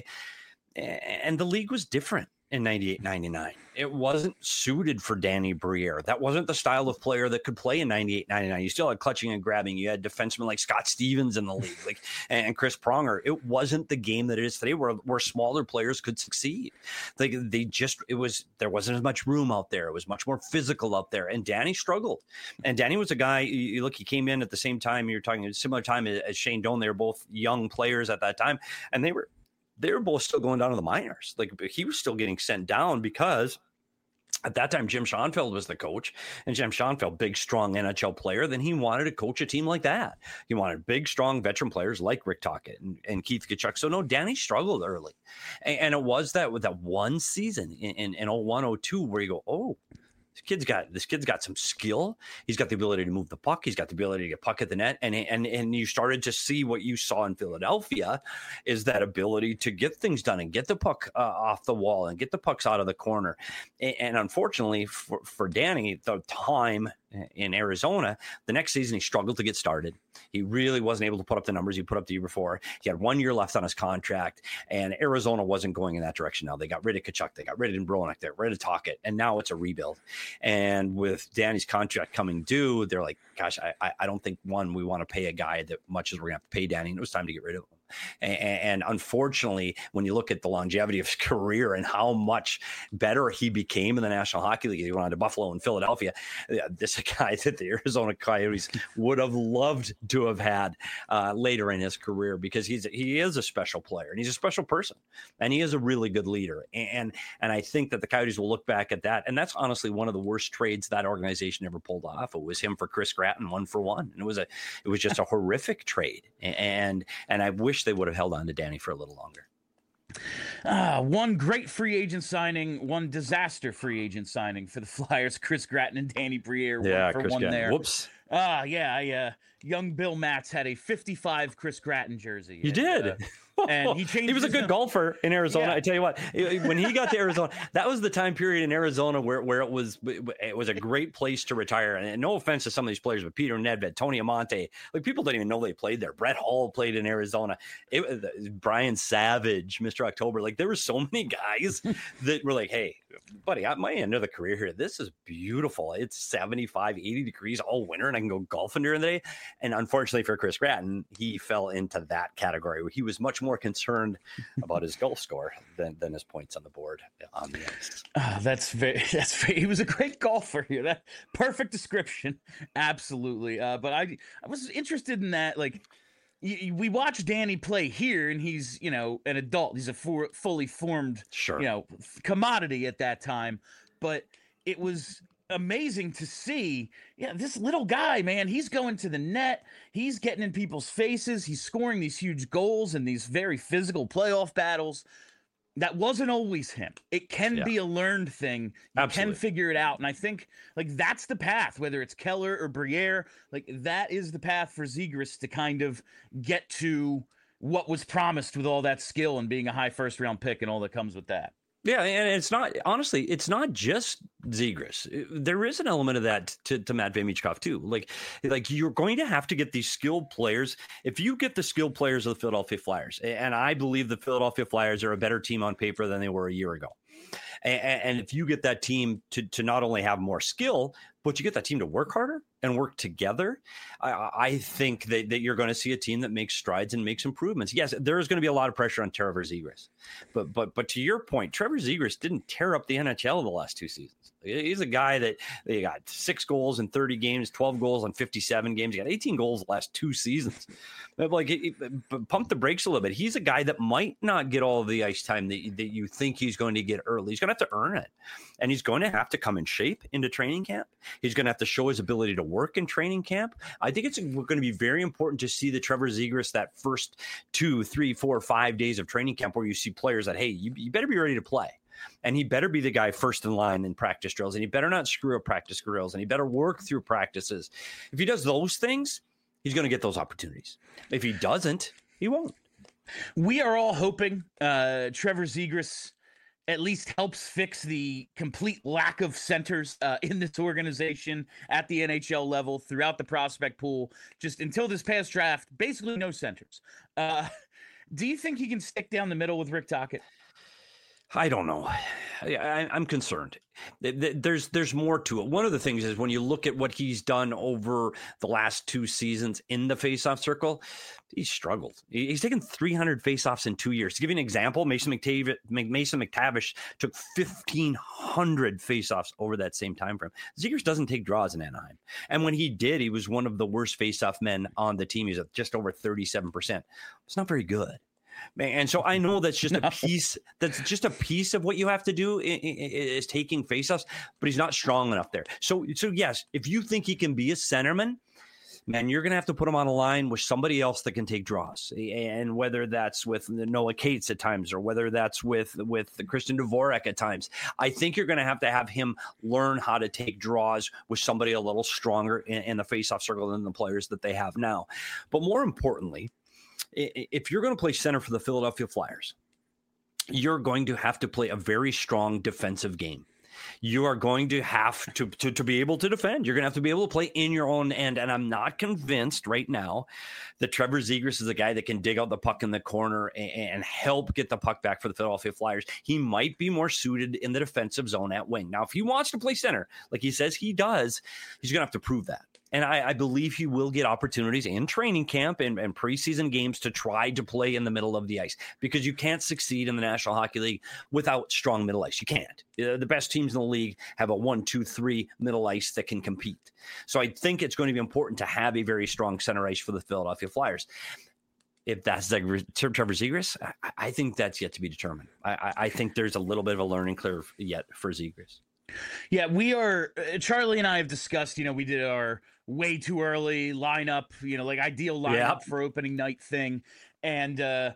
And the league was different in ninety-eight, ninety-nine. It wasn't suited for Danny Briere. That wasn't the style of player that could play in ninety-eight, ninety-nine. You still had clutching and grabbing. You had defensemen like Scott Stevens in the league, like and Chris Pronger. It wasn't the game that it is today, where where smaller players could succeed. Like they just, it was, there wasn't as much room out there. It was much more physical out there, and Danny struggled. And Danny was a guy. You look, he came in at the same time. You're talking a similar time as Shane Doan. They were both young players at that time, and they were. They were both still going down to the minors. Like, he was still getting sent down because at that time, Jim Schoenfeld was the coach, and Jim Schoenfeld, big, strong N H L player, then he wanted to coach a team like that. He wanted big, strong veteran players like Rick Tocchet and, and Keith Tkachuk. So no, Danny struggled early. And, and it was that with that one season in, in, in oh one oh two where you go, oh, This kid's got this kid's got some skill. He's got the ability to move the puck. He's got the ability to get puck at the net. And and and you started to see what you saw in Philadelphia is that ability to get things done and get the puck uh, off the wall and get the pucks out of the corner. And, and unfortunately for, for Danny, the time in Arizona, the next season he struggled to get started. He really wasn't able to put up the numbers he put up the year before. He had one year left on his contract, and Arizona wasn't going in that direction now. They got rid of Tkachuk, they got rid of Bronek, they got rid of Tocchet, and now it's a rebuild. And with Danny's contract coming due, they're like, gosh, I, I don't think, one, we want to pay a guy that much as we're going to have to pay Danny, and it was time to get rid of him. And, and unfortunately, when you look at the longevity of his career and how much better he became in the National Hockey League, he went on to Buffalo and Philadelphia. This is a guy that the Arizona Coyotes would have loved to have had uh, later in his career, because he's he is a special player and he's a special person and he is a really good leader. And and I think that the Coyotes will look back at that. And that's honestly one of the worst trades that organization ever pulled off. It was him for Chris Gratton, one for one. And it was a it was just a horrific trade. And and I wish they would have held on to Danny for a little longer. Uh, one great free agent signing, one disaster free agent signing for the Flyers. Chris Gratton and Danny Briere. Yeah, one for Chris one Gratton. there. Whoops. Ah, uh, yeah, I, uh, young Bill Matz had a fifty-five Chris Gratton jersey. He and, did. Uh, and he changed. He was a good his, golfer in Arizona. Yeah. I tell you what, when he got to Arizona, that was the time period in Arizona where, where it was it was a great place to retire. And no offense to some of these players, but Peter Nedved, Tony Amonte, like people don't even know they played there. Brett Hall played in Arizona. It, Brian Savage, Mister October, like there were so many guys that were like, hey, buddy, at my end of the career here, this is beautiful. It's seventy-five, eighty degrees all winter, and I can go golfing during the day. And unfortunately for Chris Gratton, he fell into that category where he was much more concerned about his golf score than, than his points on the board on the ice. Uh, that's very, that's very, he was a great golfer here. That perfect description. Absolutely. Uh, but I, I was interested in that. Like, we watch Danny play here, and he's, you know, an adult. He's a for, fully formed, sure, you know, commodity at that time. But it was amazing to see, yeah, this little guy, man, he's going to the net. He's getting in people's faces. He's scoring these huge goals in these very physical playoff battles. That wasn't always him. It can yeah. be a learned thing. You Absolutely. can figure it out. And I think like that's the path, whether it's Keller or Briere, like that is the path for Zegras to kind of get to what was promised with all that skill and being a high first round pick and all that comes with that. Yeah, and it's not, honestly, it's not just Zegras. There is an element of that to, to Matvei Michkov too. Like, like you're going to have to get these skilled players. If you get the skilled players of the Philadelphia Flyers, and I believe the Philadelphia Flyers are a better team on paper than they were a year ago. And, and if you get that team to, to not only have more skill, but you get that team to work harder and work together, I, I think that, that you're going to see a team that makes strides and makes improvements. Yes, there is going to be a lot of pressure on Trevor Zegras. But but but to your point, Trevor Zegras didn't tear up the N H L the last two seasons. He's a guy that they got six goals in thirty games, twelve goals in fifty-seven games. He got eighteen goals the last two seasons. Like, pump the brakes a little bit. He's a guy that might not get all of the ice time that, that you think he's going to get early. He's going to have to earn it. And he's going to have to come in shape into training camp. He's going to have to show his ability to work in training camp. I think it's going to be very important to see the Trevor Zegras that first two, three, four, five days of training camp where you see players that, hey, you, you better be ready to play. And he better be the guy first in line in practice drills. And he better not screw up practice drills. And he better work through practices. If he does those things, he's going to get those opportunities. If he doesn't, he won't. We are all hoping uh, Trevor Zegras at least helps fix the complete lack of centers uh, in this organization at the N H L level throughout the prospect pool. Just until this past draft, basically no centers. Uh, do you think he can stick down the middle with Rick Tocchet? I don't know. I, I'm concerned. There's there's more to it. One of the things is when you look at what he's done over the last two seasons in the faceoff circle, he's struggled. He's taken three hundred faceoffs in two years. To give you an example, Mason McTavish, Mason McTavish took fifteen hundred faceoffs over that same time frame. Zegras doesn't take draws in Anaheim. And when he did, he was one of the worst faceoff men on the team. He's at just over thirty-seven percent. It's not very good. And so I know that's just no. a piece. That's just a piece of what you have to do is taking faceoffs, but he's not strong enough there. So, so yes, if you think he can be a centerman, man, you're going to have to put him on a line with somebody else that can take draws. And whether that's with Noah Cates at times, or whether that's with, with Christian Dvorak at times, I think you're going to have to have him learn how to take draws with somebody a little stronger in, in the faceoff circle than the players that they have now. But more importantly, if you're going to play center for the Philadelphia Flyers, you're going to have to play a very strong defensive game. You are going to have to, to, to be able to defend. You're going to have to be able to play in your own end. And I'm not convinced right now that Trevor Zegras is a guy that can dig out the puck in the corner and, and help get the puck back for the Philadelphia Flyers. He might be more suited in the defensive zone at wing. Now, if he wants to play center, like he says he does, he's going to have to prove that. And I, I believe he will get opportunities in training camp and, and preseason games to try to play in the middle of the ice, because you can't succeed in the National Hockey League without strong middle ice. You can't. Uh, the best teams in the league have a one, two, three middle ice that can compete. So I think it's going to be important to have a very strong center ice for the Philadelphia Flyers. If that's like Trevor Zegras, I, I think that's yet to be determined. I, I think there's a little bit of a learning curve yet for Zegras. Yeah, we are. Uh, Charlie and I have discussed, you know, we did our way too early lineup, you know, like ideal lineup Yeah. for opening night thing. And uh,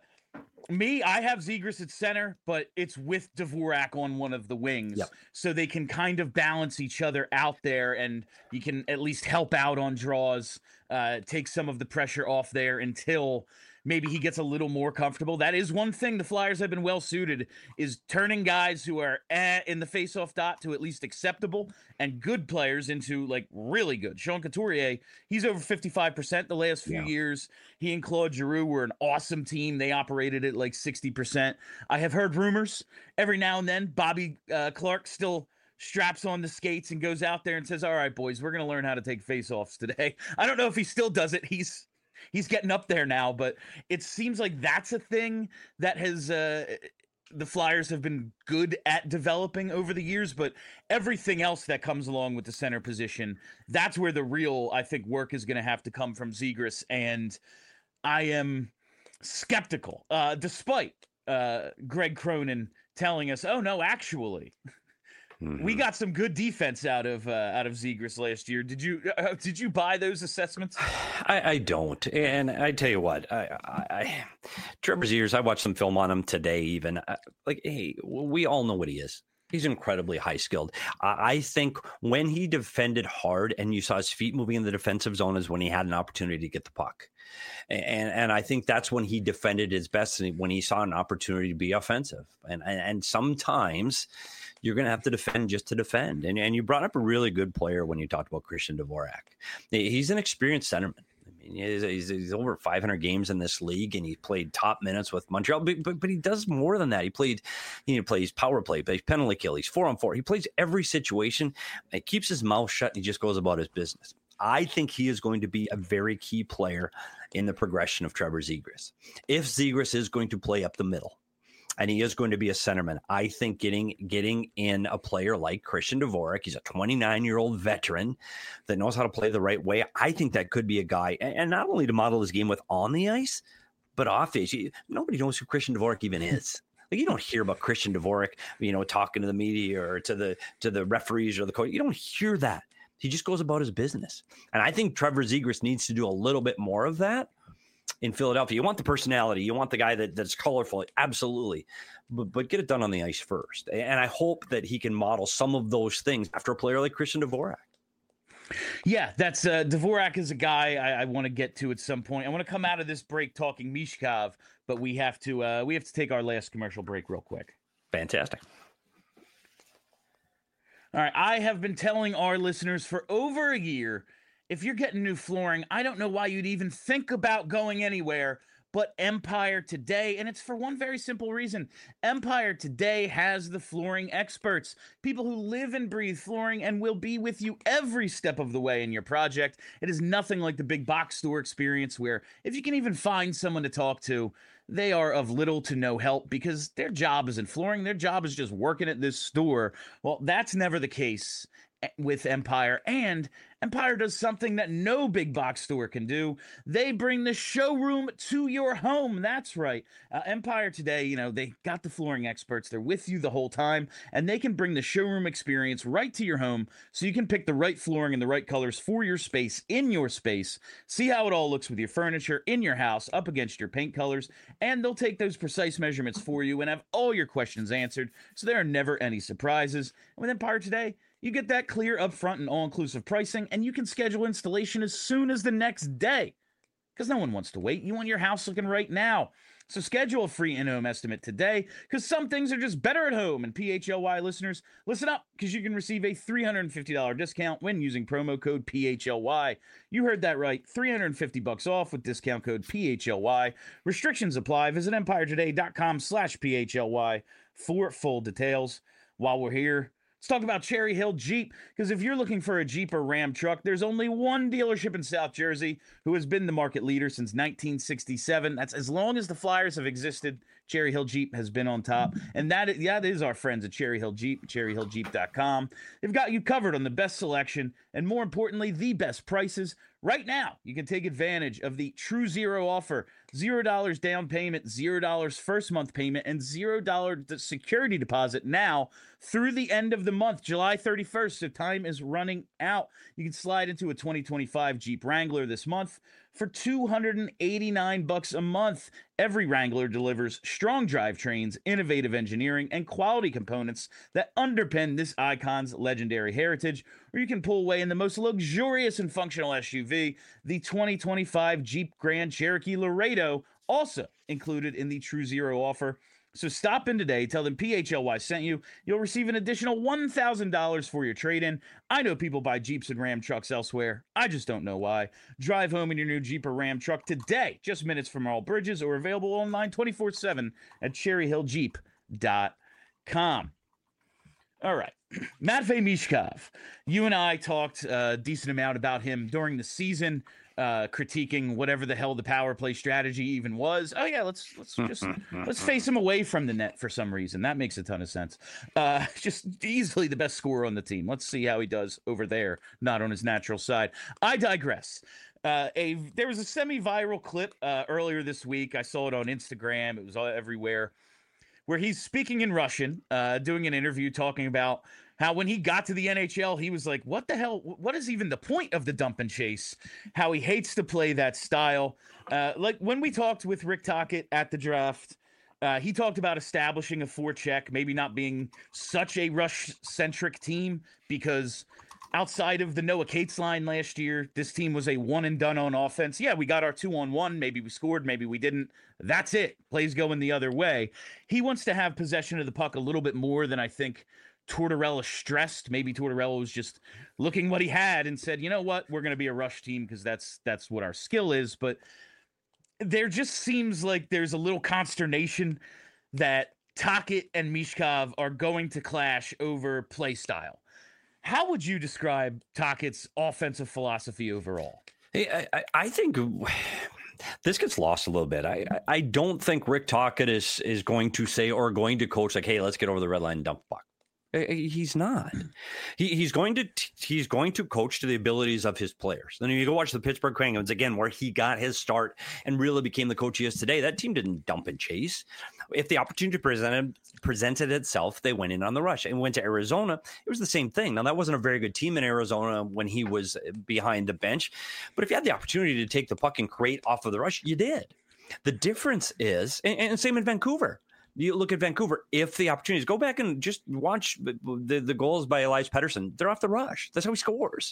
me, I have Zegras at center, but it's with Dvorak on one of the wings. Yep. So they can kind of balance each other out there, and you can at least help out on draws, uh, take some of the pressure off there until maybe he gets a little more comfortable. That is one thing the Flyers have been well suited, is turning guys who are eh, in the faceoff dot to at least acceptable, and good players into like really good. Sean Couturier, he's over fifty-five percent the last few Yeah. years. He and Claude Giroux were an awesome team. They operated at like sixty percent. I have heard rumors every now and then Bobby uh, Clark still straps on the skates and goes out there and says, all right, boys, we're going to learn how to take faceoffs today. I don't know if he still does it. He's He's getting up there now, but it seems like that's a thing that has uh, the Flyers have been good at developing over the years. But everything else that comes along with the center position, that's where the real, I think, work is going to have to come from Zegras. And I am skeptical, uh, despite uh, Greg Cronin telling us, oh, no, actually. Mm-hmm. We got some good defense out of uh, out of Zegras last year. Did you uh, did you buy those assessments? I, I don't, and I tell you what, I, I, I Trevor Zegras, I watched some film on him today. Even I, like, hey, we all know what he is. He's incredibly high skilled. I, I think when he defended hard and you saw his feet moving in the defensive zone is when he had an opportunity to get the puck, and and I think that's when he defended his best, when he saw an opportunity to be offensive. And and, and sometimes you're going to have to defend just to defend. And, and you brought up a really good player when you talked about Christian Dvorak. He's an experienced centerman. I mean, he's, he's, he's over five hundred games in this league, and he played top minutes with Montreal. But, but, but he does more than that. He played, he plays power play, plays penalty kill. He's four on four. He plays every situation. He keeps his mouth shut, and he just goes about his business. I think he is going to be a very key player in the progression of Trevor Zegras. If Zegras is going to play up the middle, and he is going to be a centerman, I think getting getting in a player like Christian Dvorak, he's a twenty-nine-year-old veteran that knows how to play the right way. I think that could be a guy, and not only to model his game with on the ice, but off the ice. Nobody knows who Christian Dvorak even is. Like, you don't hear about Christian Dvorak, you know, talking to the media or to the to the referees or the coach. You don't hear that. He just goes about his business. And I think Trevor Zegras needs to do a little bit more of that in Philadelphia. You want the personality. You want the guy that, that's colorful. Absolutely. But, but get it done on the ice first. And I hope that he can model some of those things after a player like Christian Dvorak. Yeah, that's uh, Dvorak is a guy I, I want to get to at some point. I want to come out of this break talking Mishkov, but we have to uh, we have to take our last commercial break real quick. Fantastic. All right, I have been telling our listeners for over a year, if you're getting new flooring, I don't know why you'd even think about going anywhere but Empire Today, and it's for one very simple reason. Empire Today has the flooring experts, people who live and breathe flooring and will be with you every step of the way in your project. It is nothing like the big box store experience where if you can even find someone to talk to, they are of little to no help because their job isn't flooring. Their job is just working at this store. Well, that's never the case with Empire, and Empire does something that no big box store can do. They bring the showroom to your home. That's right. Uh, Empire Today, you know, they got the flooring experts. They're with you the whole time, and they can bring the showroom experience right to your home so you can pick the right flooring and the right colors for your space, in your space. See how it all looks with your furniture in your house up against your paint colors, and they'll take those precise measurements for you and have all your questions answered, so there are never any surprises. And with Empire Today, you get that clear, upfront, and all-inclusive pricing, and you can schedule installation as soon as the next day. Because no one wants to wait. You want your house looking right now. So schedule a free in-home estimate today, because some things are just better at home. And P H L Y listeners, listen up, because you can receive a three hundred fifty dollars discount when using promo code P H L Y. You heard that right, three hundred fifty bucks off with discount code P H L Y. Restrictions apply. Visit empire today dot com slash P H L Y for full details. While we're here, Let's talk about Cherry Hill Jeep, because if you're looking for a Jeep or Ram truck, there's only one dealership in South Jersey who has been the market leader since nineteen sixty-seven. That's as long as the Flyers have existed. Cherry Hill Jeep has been on top, and that is, that is our friends at Cherry Hill Jeep, cherry hill jeep dot com. They've got you covered on the best selection and, more importantly, the best prices. Right now, you can take advantage of the True Zero offer. zero dollars down payment, zero dollars first month payment, and zero dollars security deposit now through the end of the month, July thirty-first. So time is running out. You can slide into a twenty twenty-five Jeep Wrangler this month for two hundred eighty-nine bucks a month. Every Wrangler delivers strong drivetrains, innovative engineering, and quality components that underpin this icon's legendary heritage. Or you can pull away in the most luxurious and functional S U V, the twenty twenty-five Jeep Grand Cherokee Laredo, also included in the True Zero offer. So stop in today, tell them P H L Y sent you. You'll receive an additional one thousand dollars for your trade-in. I know people buy Jeeps and Ram trucks elsewhere. I just don't know why. Drive home in your new Jeep or Ram truck today, just minutes from all bridges, or available online twenty-four seven at cherry hill jeep dot com. All right. Matvei Michkov. You and I talked a decent amount about him during the season, uh, critiquing whatever the hell the power play strategy even was. Oh yeah, let's let's just let's face him away from the net for some reason. That makes a ton of sense. Uh, just easily the best scorer on the team. Let's see how he does over there, not on his natural side. I digress. Uh, a there was a semi-viral clip uh, earlier this week. I saw it on Instagram. It was all everywhere, where he's speaking in Russian, uh, doing an interview talking about how when he got to the N H L, he was like, what the hell? What is even the point of the dump and chase? How he hates to play that style. Uh, like when we talked with Rick Tocchet at the draft, uh, he talked about establishing a forecheck, maybe not being such a rush-centric team, because outside of the Noah Cates line last year, this team was a one and done on offense. Yeah, we got our two on one. Maybe we scored, maybe we didn't. That's it. Plays going the other way. He wants to have possession of the puck a little bit more than I think Tortorella stressed. Maybe Tortorella was just looking what he had and said, you know what, we're going to be a rush team because that's that's what our skill is. But there just seems like there's a little consternation that Tocchet and Michkov are going to clash over play style. How would you describe Tocchet's offensive philosophy overall? Hey, I, I think this gets lost a little bit. I, I don't think Rick Tocchet is is going to say or going to coach like, hey, let's get over the red line and dump the puck. He's not. He, he's going to he's going to coach to the abilities of his players. Then you go watch the Pittsburgh Penguins again, where he got his start and really became the coach he is today. That team didn't dump and chase. If the opportunity presented presented itself, they went in on the rush and went to Arizona. It was the same thing. Now that wasn't a very good team in Arizona when he was behind the bench, but if you had the opportunity to take the puck and create off of the rush, you did. The difference is, and, and same in Vancouver. You look at Vancouver, if the opportunities, go back and just watch the, the goals by Elias Pettersson. They're off the rush. That's how he scores.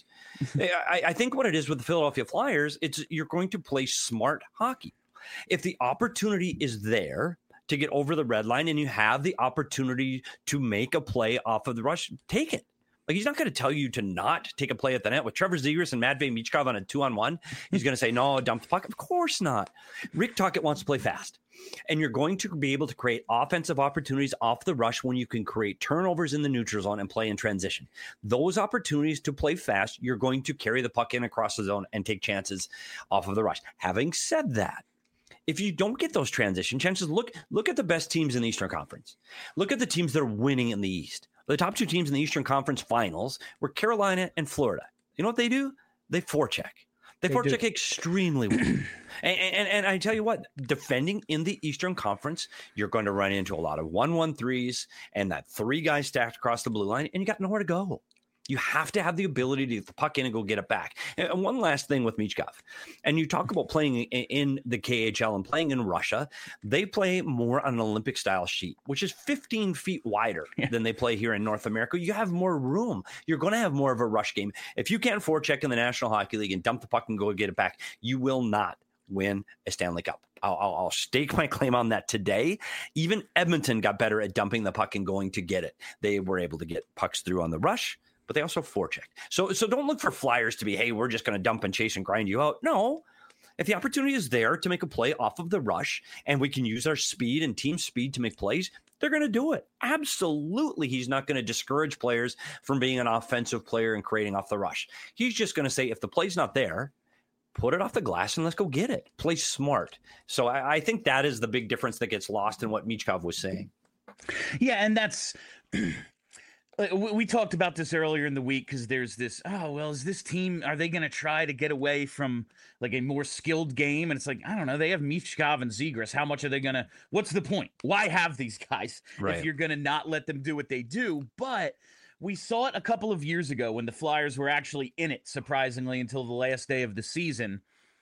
I, I think what it is with the Philadelphia Flyers, it's you're going to play smart hockey. If the opportunity is there to get over the red line and you have the opportunity to make a play off of the rush, take it. Like, he's not going to tell you to not take a play at the net. With Trevor Zegras and Matvei Michkov on a two-on-one, he's going to say, no, dump the puck. Of course not. Rick Tocchet wants to play fast. And you're going to be able to create offensive opportunities off the rush when you can create turnovers in the neutral zone and play in transition. Those opportunities to play fast, you're going to carry the puck in across the zone and take chances off of the rush. Having said that, if you don't get those transition chances, look, look at the best teams in the Eastern Conference. Look at the teams that are winning in the East. The top two teams in the Eastern Conference Finals were Carolina and Florida. You know what they do? They forecheck. They, they forecheck do. extremely well. and, and, and I tell you what, defending in the Eastern Conference, you're going to run into a lot of one-one threes and that three guys stacked across the blue line, and you got nowhere to go. You have to have the ability to get the puck in and go get it back. And one last thing with Michkov. And you talk about playing in the K H L and playing in Russia. They play more on an Olympic-style sheet, which is fifteen feet wider yeah. than they play here in North America. You have more room. You're going to have more of a rush game. If you can't forecheck in the National Hockey League and dump the puck and go get it back, you will not win a Stanley Cup. I'll, I'll, I'll stake my claim on that today. Even Edmonton got better at dumping the puck and going to get it. They were able to get pucks through on the rush, but they also forecheck. So, so don't look for Flyers to be, hey, we're just going to dump and chase and grind you out. No. If the opportunity is there to make a play off of the rush and we can use our speed and team speed to make plays, they're going to do it. Absolutely. He's not going to discourage players from being an offensive player and creating off the rush. He's just going to say, if the play's not there, put it off the glass and let's go get it. Play smart. So I, I think that is the big difference that gets lost in what Michkov was saying. Yeah, and that's we talked about this earlier in the week because there's this, oh, well, is this team, are they going to try to get away from like a more skilled game? And it's like, I don't know, they have Michkov and Zegras. How much are they going to, what's the point? Why have these guys right. if you're going to not let them do what they do? But we saw it a couple of years ago when the Flyers were actually in it, surprisingly, until the last day of the season.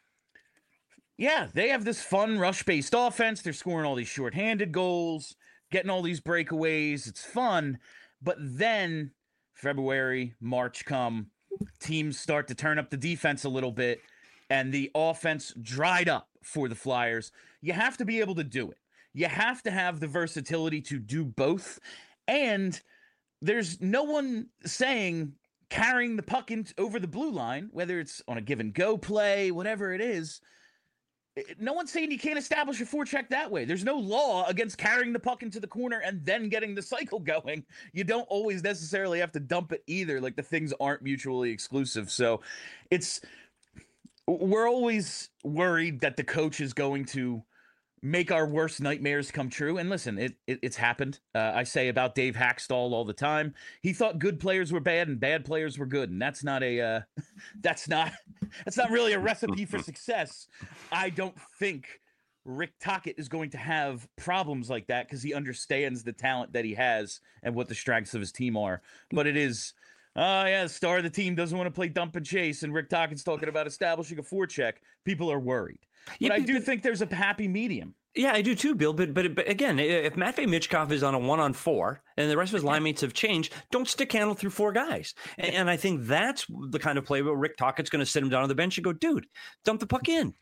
Yeah, they have this fun rush-based offense. They're scoring all these shorthanded goals, getting all these breakaways. It's fun. But then February, March come, teams start to turn up the defense a little bit, and the offense dried up for the Flyers. You have to be able to do it. You have to have the versatility to do both. And there's no one saying carrying the puck in, over the blue line, whether it's on a give and go play, whatever it is. No one's saying you can't establish a forecheck that way. There's no law against carrying the puck into the corner and then getting the cycle going. You don't always necessarily have to dump it either. Like, the things aren't mutually exclusive. So it's, we're always worried that the coach is going to make our worst nightmares come true. And listen, it, it it's happened. Uh, I say about Dave Haxtell all the time. He thought good players were bad and bad players were good, and that's not a uh, that's not that's not really a recipe for success. I don't think Rick Tocchet is going to have problems like that because he understands the talent that he has and what the strengths of his team are. But it is, oh uh, yeah, the star of the team doesn't want to play dump and chase, and Rick Tocchet's talking about establishing a forecheck. People are worried. But yeah, I do but, think there's a happy medium. Yeah, I do too, Bill. But but, but again, if Matvei Michkov is on a one on four and the rest of his line mates have changed, don't stick handle through four guys. And, and I think that's the kind of play where Rick Tocchet's going to sit him down on the bench and go, dude, dump the puck in.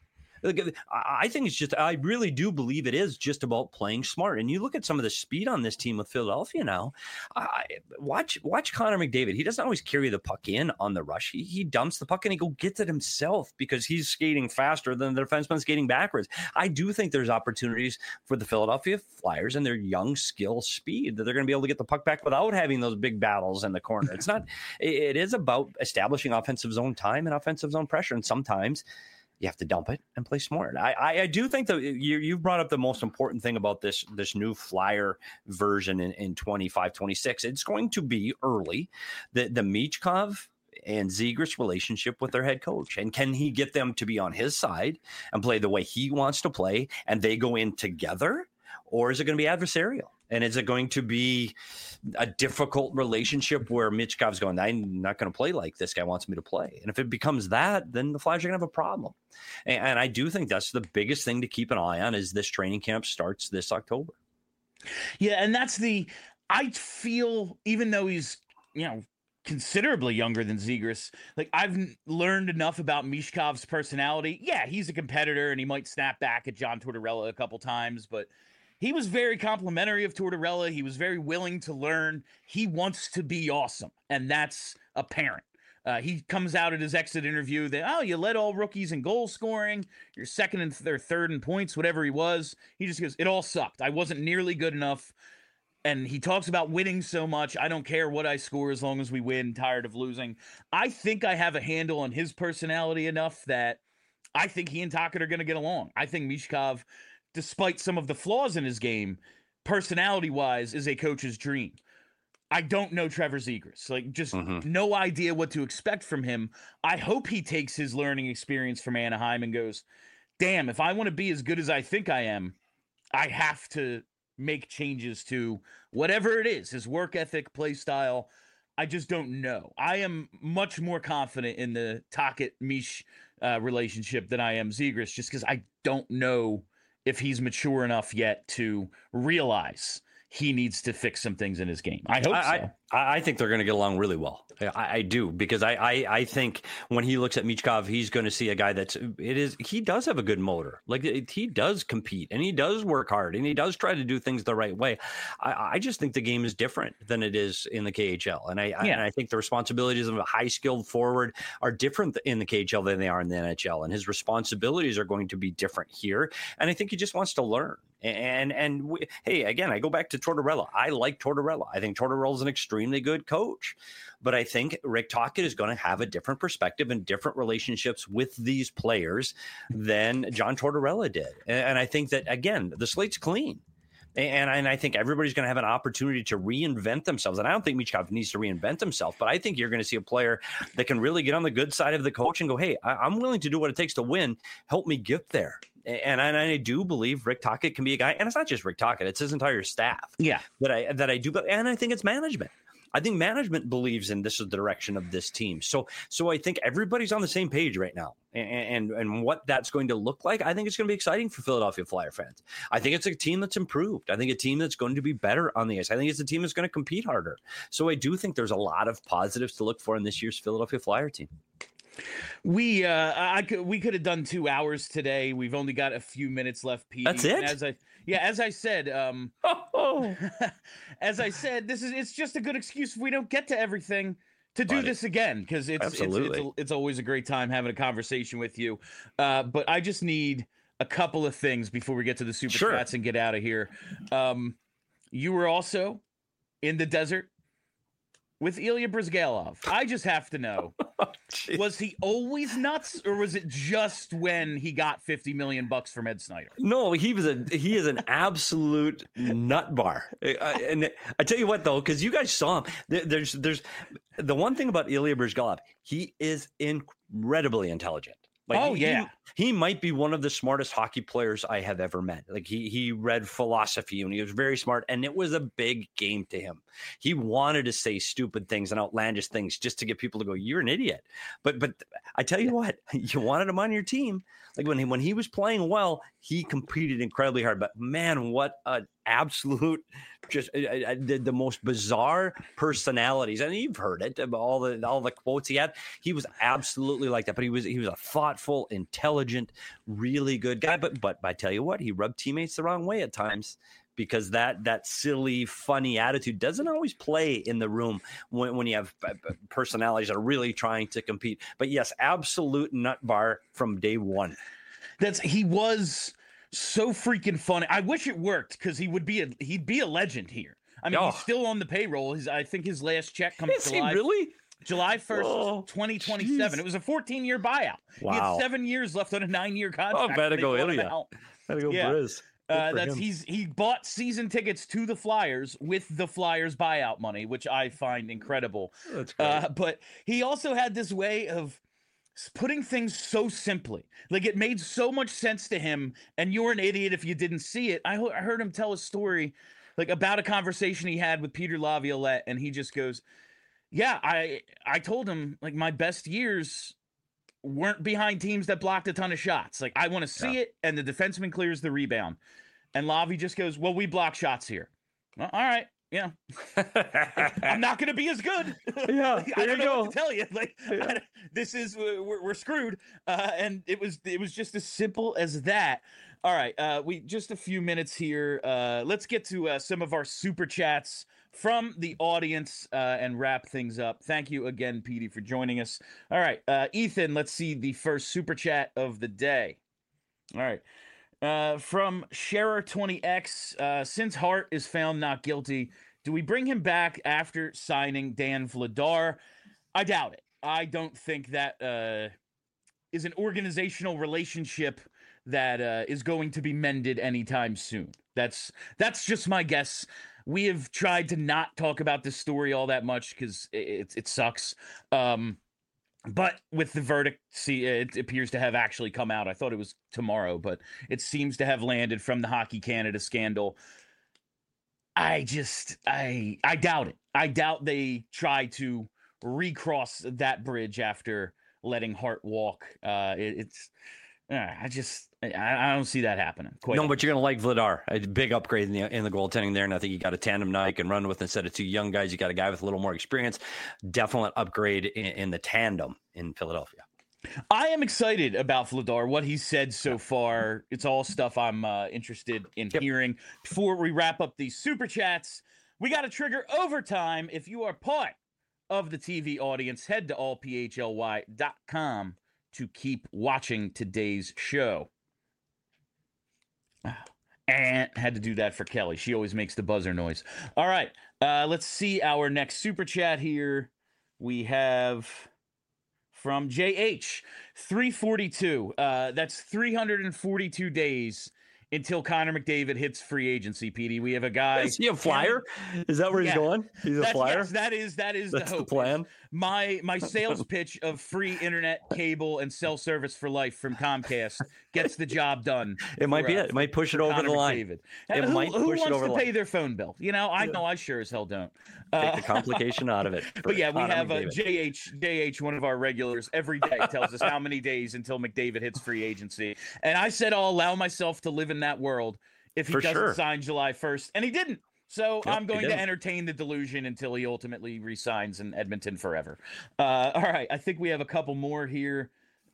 I think it's just, I really do believe it is just about playing smart. And you look at some of the speed on this team with Philadelphia now. I, watch watch Connor McDavid. He doesn't always carry the puck in on the rush. He, he dumps the puck and he go gets it himself because he's skating faster than the defenseman skating backwards. I do think there's opportunities for the Philadelphia Flyers and their young skill speed that they're going to be able to get the puck back without having those big battles in the corner. It's not, it is about establishing offensive zone time and offensive zone pressure. And sometimes you have to dump it and play smart. I, I, I do think that you, you've brought up the most important thing about this, this new Flyer version in, in twenty-five twenty-six. It's going to be early, the, the Michkov and Zegras relationship with their head coach. And can he get them to be on his side and play the way he wants to play and they go in together? Or is it going to be adversarial? And is it going to be a difficult relationship where Michkov's going, I'm not going to play like this guy wants me to play? And if it becomes that, then the Flyers are going to have a problem. And, and I do think that's the biggest thing to keep an eye on as this training camp starts this October. Yeah, and that's the, I feel, even though he's, you know, considerably younger than Zegras, like, I've learned enough about Michkov's personality. Yeah, he's a competitor and he might snap back at John Tortorella a couple times, but he was very complimentary of Tortorella. He was very willing to learn. He wants to be awesome, and that's apparent. Uh, he comes out at his exit interview that, oh, you led all rookies in goal scoring. You're second and th- third in points, whatever he was. He just goes, it all sucked. I wasn't nearly good enough. And he talks about winning so much. I don't care what I score as long as we win. Tired of losing. I think I have a handle on his personality enough that I think he and Tocchet are going to get along. I think Michkov, despite some of the flaws in his game, personality-wise, is a coach's dream. I don't know Trevor Zegras. Like, just mm-hmm. no idea what to expect from him. I hope he takes his learning experience from Anaheim and goes, damn, if I want to be as good as I think I am, I have to make changes to whatever it is, his work ethic, play style. I just don't know. I am much more confident in the Tocchet-Mish uh, relationship than I am Zegras, just because I don't know if he's mature enough yet to realize he needs to fix some things in his game. I hope I, so. I, I think they're going to get along really well. I, I do, because I, I, I think when he looks at Michkov, he's going to see a guy that's, it is, he does have a good motor. Like, it, he does compete and he does work hard and he does try to do things the right way. I, I just think the game is different than it is in the K H L. And I, yeah. I, and I think the responsibilities of a high skilled forward are different in the K H L than they are in the N H L. And his responsibilities are going to be different here. And I think he just wants to learn. And and we, hey, again, I go back to Tortorella. I like Tortorella. I think Tortorella is an extremely good coach, but I think Rick Tocchet is going to have a different perspective and different relationships with these players than John Tortorella did. And, and I think that, again, the slate's clean. And, and I think everybody's going to have an opportunity to reinvent themselves. And I don't think Michkov needs to reinvent himself, but I think you're going to see a player that can really get on the good side of the coach and go, hey, I, I'm willing to do what it takes to win. Help me get there. And I, and I do believe Rick Tocchet can be a guy, and it's not just Rick Tocchet; it's his entire staff. Yeah, that I that I do, but and I think it's management. I think management believes in this is the direction of this team. So so I think everybody's on the same page right now, and and, and what that's going to look like. I think it's going to be exciting for Philadelphia Flyer fans. I think it's a team that's improved. I think a team that's going to be better on the ice. I think it's a team that's going to compete harder. So I do think there's a lot of positives to look for in this year's Philadelphia Flyer team. We uh I could we could have done two hours today. We've only got a few minutes left, Pete. That's it. And as I yeah, as I said, um oh. as I said, this is it's just a good excuse if we don't get to everything to do Buddy. this again, because it's it's, it's, Absolutely. it's it's always a great time having a conversation with you. Uh, but I just need a couple of things before we get to the super Sure. chats and get out of here. Um, you were also in the desert with Ilya Brizgalov. I just have to know, Jeez. was he always nuts, or was it just when he got fifty million bucks from Ed Snyder? No, he was a he is an absolute nut bar. Uh, and I tell you what, though, because you guys saw him, there, there's there's the one thing about Ilya Brizgalov, he is incredibly intelligent. Like, Oh, he, yeah. he, he might be one of the smartest hockey players I have ever met. Like he he read philosophy and he was very smart, and it was a big game to him. He wanted to say stupid things and outlandish things just to get people to go, "You're an idiot." But but I tell you what, you wanted him on your team. Like when he when he was playing well, he competed incredibly hard. But man, what an absolute just uh, uh, the, the most bizarre personalities. And you've heard it, all the all the quotes he had. He was absolutely like that. But he was he was a thoughtful, intelligent, really good guy. But but I tell you what, he rubbed teammates the wrong way at times, because that that silly, funny attitude doesn't always play in the room when, when you have personalities that are really trying to compete. But yes, absolute nut bar from day one. That's he was so freaking funny. I wish it worked, because he would be a he'd be a legend here. I mean, Oh. he's still on the payroll. His I think his last check comes Is he July really? July first, Oh, twenty twenty-seven. geez. It was a fourteen year buyout. He Wow. had seven years left on a nine year contract. Oh, better and they go bought him Ilya. out. Gotta go Yeah. Briz. Good Uh, for that's him. he's he bought season tickets to the Flyers with the Flyers buyout money, which I find incredible. That's great. Uh, but he also had this way of s- putting things so simply. Like, it made so much sense to him, and you're an idiot if you didn't see it. I, ho- I heard him tell a story like about a conversation he had with Peter Laviolette, and he just goes, yeah, I I told him, like, my best years weren't behind teams that blocked a ton of shots. Like, I want to see Yeah. it, and the defenseman clears the rebound. And Lavi just goes, well, we block shots here. Well, all right. Yeah. I'm not going to be as good. Yeah, I there don't you know go. what to tell you. Like, Yeah. I, this is we're, we're screwed. Uh, and it was it was just as simple as that. All right, uh, we just a few minutes here. Uh, let's get to uh, some of our super chats from the audience uh, and wrap things up. Thank you again, Petey, for joining us. All right, uh, Ethan, let's see the first super chat of the day. All right. Uh, from Scherer twenty X, uh, since Hart is found not guilty, do we bring him back after signing Dan Vladar? I doubt it. I don't think that uh, is an organizational relationship that uh, is going to be mended anytime soon. That's that's just my guess. We have tried to not talk about this story all that much because it, it, it sucks. Um, But with the verdict, see, it appears to have actually come out. I thought it was tomorrow, but it seems to have landed from the Hockey Canada scandal. I just, I, I doubt it. I doubt they try to recross that bridge after letting Hart walk. Uh, it, it's, uh, I just, I, I don't see that happening. Quite No, but you're gonna like Vladar. A big upgrade in the in the goaltending there, and I think you got a tandem now you can run with instead of two young guys. You got a guy with a little more experience. Definite upgrade in, in the tandem in Philadelphia. I am excited about Vladar, what he said so far. It's all stuff I'm uh, interested in Yep. hearing. Before we wrap up these super chats, we got to trigger overtime. If you are part of the T V audience, head to all p h l y dot com to keep watching today's show. And had to do that for Kelly. She always makes the buzzer noise. All right. Uh, let's see our next super chat here. We have from J H, three forty-two. Uh, that's three hundred forty-two days until Connor McDavid hits free agency, P D. We have a guy. Is he a flyer? Is that where Yeah. he's going? He's a That's, flyer? yes, that is that is That's the the hope. plan? My my sales pitch of free internet, cable, and cell service for life from Comcast gets the job done. It might for, be uh, it. It might push it for over Connor the line. McDavid. It who, might who push it wants over to the pay line. their phone bill? You know, I know I sure as hell don't. Take Uh, the complication out of it. But yeah, we Connor have uh, McDavid. J H, J H, one of our regulars, every day tells us how many days until McDavid hits free agency. And I said I'll allow myself to live in that world if he For doesn't sure. sign July first. And he didn't. So Yep, I'm he going to didn't. entertain the delusion until he ultimately resigns in Edmonton forever. Uh, all right, I think we have a couple more here.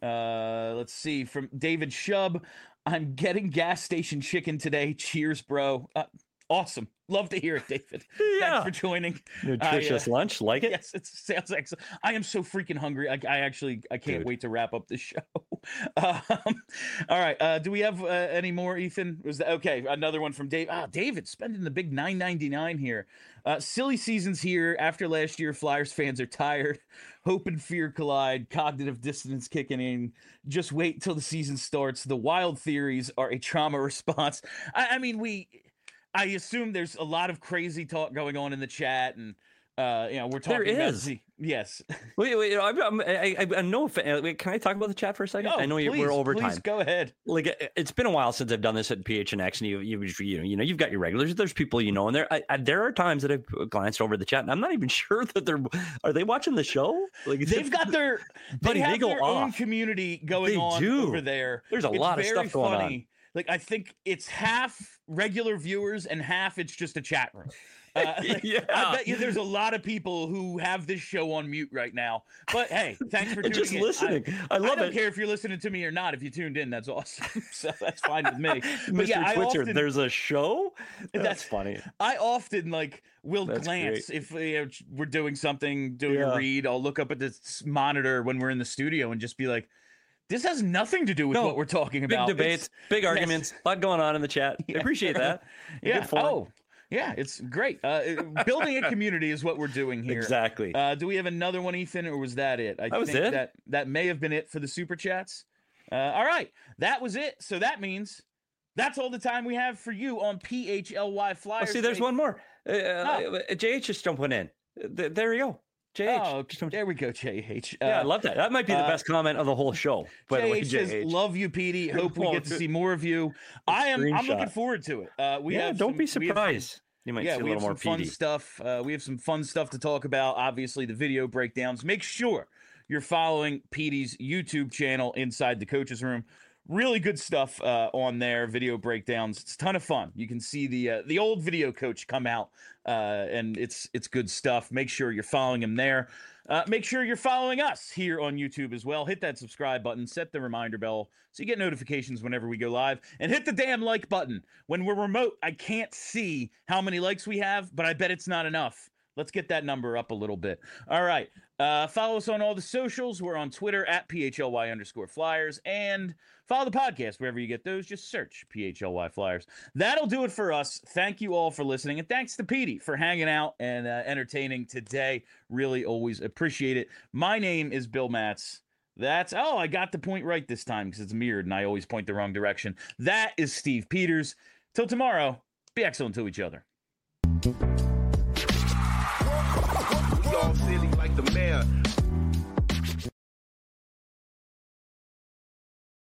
Uh, let's see, from David Shub. I'm getting gas station chicken today. Cheers, bro. Uh, awesome. Love to hear it, David. Yeah. Thanks for joining. Nutritious I, uh, lunch. Like it? Yes, it sounds excellent. I am so freaking hungry. I, I actually I can't Dude. wait to wrap up the show. Um, all right. Uh, do we have uh, any more, Ethan? Was that okay? Another one from Dave. Ah, David spending the big nine ninety-nine here. Uh, silly seasons here. After last year, Flyers fans are tired. Hope and fear collide. Cognitive dissonance kicking in. Just wait till the season starts. The wild theories are a trauma response. I, I mean, we. I assume there's a lot of crazy talk going on in the chat, and uh, you know we're talking There about is. the yes. Wait, wait. I'm, I'm, I, I, I know. If, uh, wait, can I talk about the chat for a second? Oh, I know you, please, we're over please time. go ahead. Like it- it's been a while since I've done this at P H N X, and you, you, you know, you know, you've got your regulars. There's people you know, and there, I, I, there are times that I've glanced over the chat, and I'm not even sure that they're. Are they watching the show? Like They've got their Buddy, they they have go their own off. community going They on do. over there. There's a It's lot of very stuff going on. funny. Like I think it's half regular viewers and half it's just a chat room. Uh, Yeah. I bet you there's a lot of people who have this show on mute right now. But hey, thanks for and tuning just in. listening. I, I, love I don't it. care if you're listening to me or not. If you tuned in, that's awesome. So that's fine with me. But Mister yeah, I Twitcher, often, there's a show. That's, That's- funny. I often like will That's glance if you know, we're doing something, doing Yeah. a read. I'll look up at this monitor when we're in the studio and just be like, "This has nothing to do with No, what we're talking Big about." debates, It's- big yes. arguments, a lot going on in the chat. I appreciate that. Yeah. Good fun. Oh, yeah. It's great. Uh, it- building a community is what we're doing here. Exactly. Uh, do we have another one, Ethan, or was that it? I That was think it. that that may have been it for the super chats. Uh, all right, that was it. So that means that's all the time we have for you on P H L Y Oh, Flyers. see, there's Day. one more. Uh, Oh. uh, J H just jumping in. Th- There you go. J H. Oh, just jumped- there we go, J H. yeah, I Uh, love that. That might be the uh, best comment of the whole show. By the way, J H says, J H. "Love you, Petey. Hope we Oh, get to good. see more of you." I am. I'm looking Screenshot. forward to it. Uh, we yeah, have. don't some- be we have- surprised. You might yeah, see a we have little some more fun P D. stuff. Uh, we have some fun stuff to talk about. Obviously, the video breakdowns. Make sure you're following Petey's YouTube channel, Inside the Coaches Room. Really good stuff uh, on there. Video breakdowns. It's a ton of fun. You can see the uh, the old video coach come out, uh, and it's it's good stuff. Make sure you're following him there. Uh, make sure you're following us here on YouTube as well. Hit that subscribe button, set the reminder bell so you get notifications whenever we go live, and hit the damn like button. When we're remote, I can't see how many likes we have, but I bet it's not enough. Let's get that number up a little bit. All right. Uh, follow us on all the socials. We're on Twitter at P H L Y underscore Flyers, and follow the podcast wherever you get those. Just search P H L Y Flyers. That'll do it for us. Thank you all for listening, and thanks to Petey for hanging out and uh, entertaining today. Really always appreciate it. My name is Bill Matz. That's, oh, I got the point right this time because it's mirrored and I always point the wrong direction. That is Steve Peters. Till tomorrow, be excellent to each other. Y'all silly like the mayor.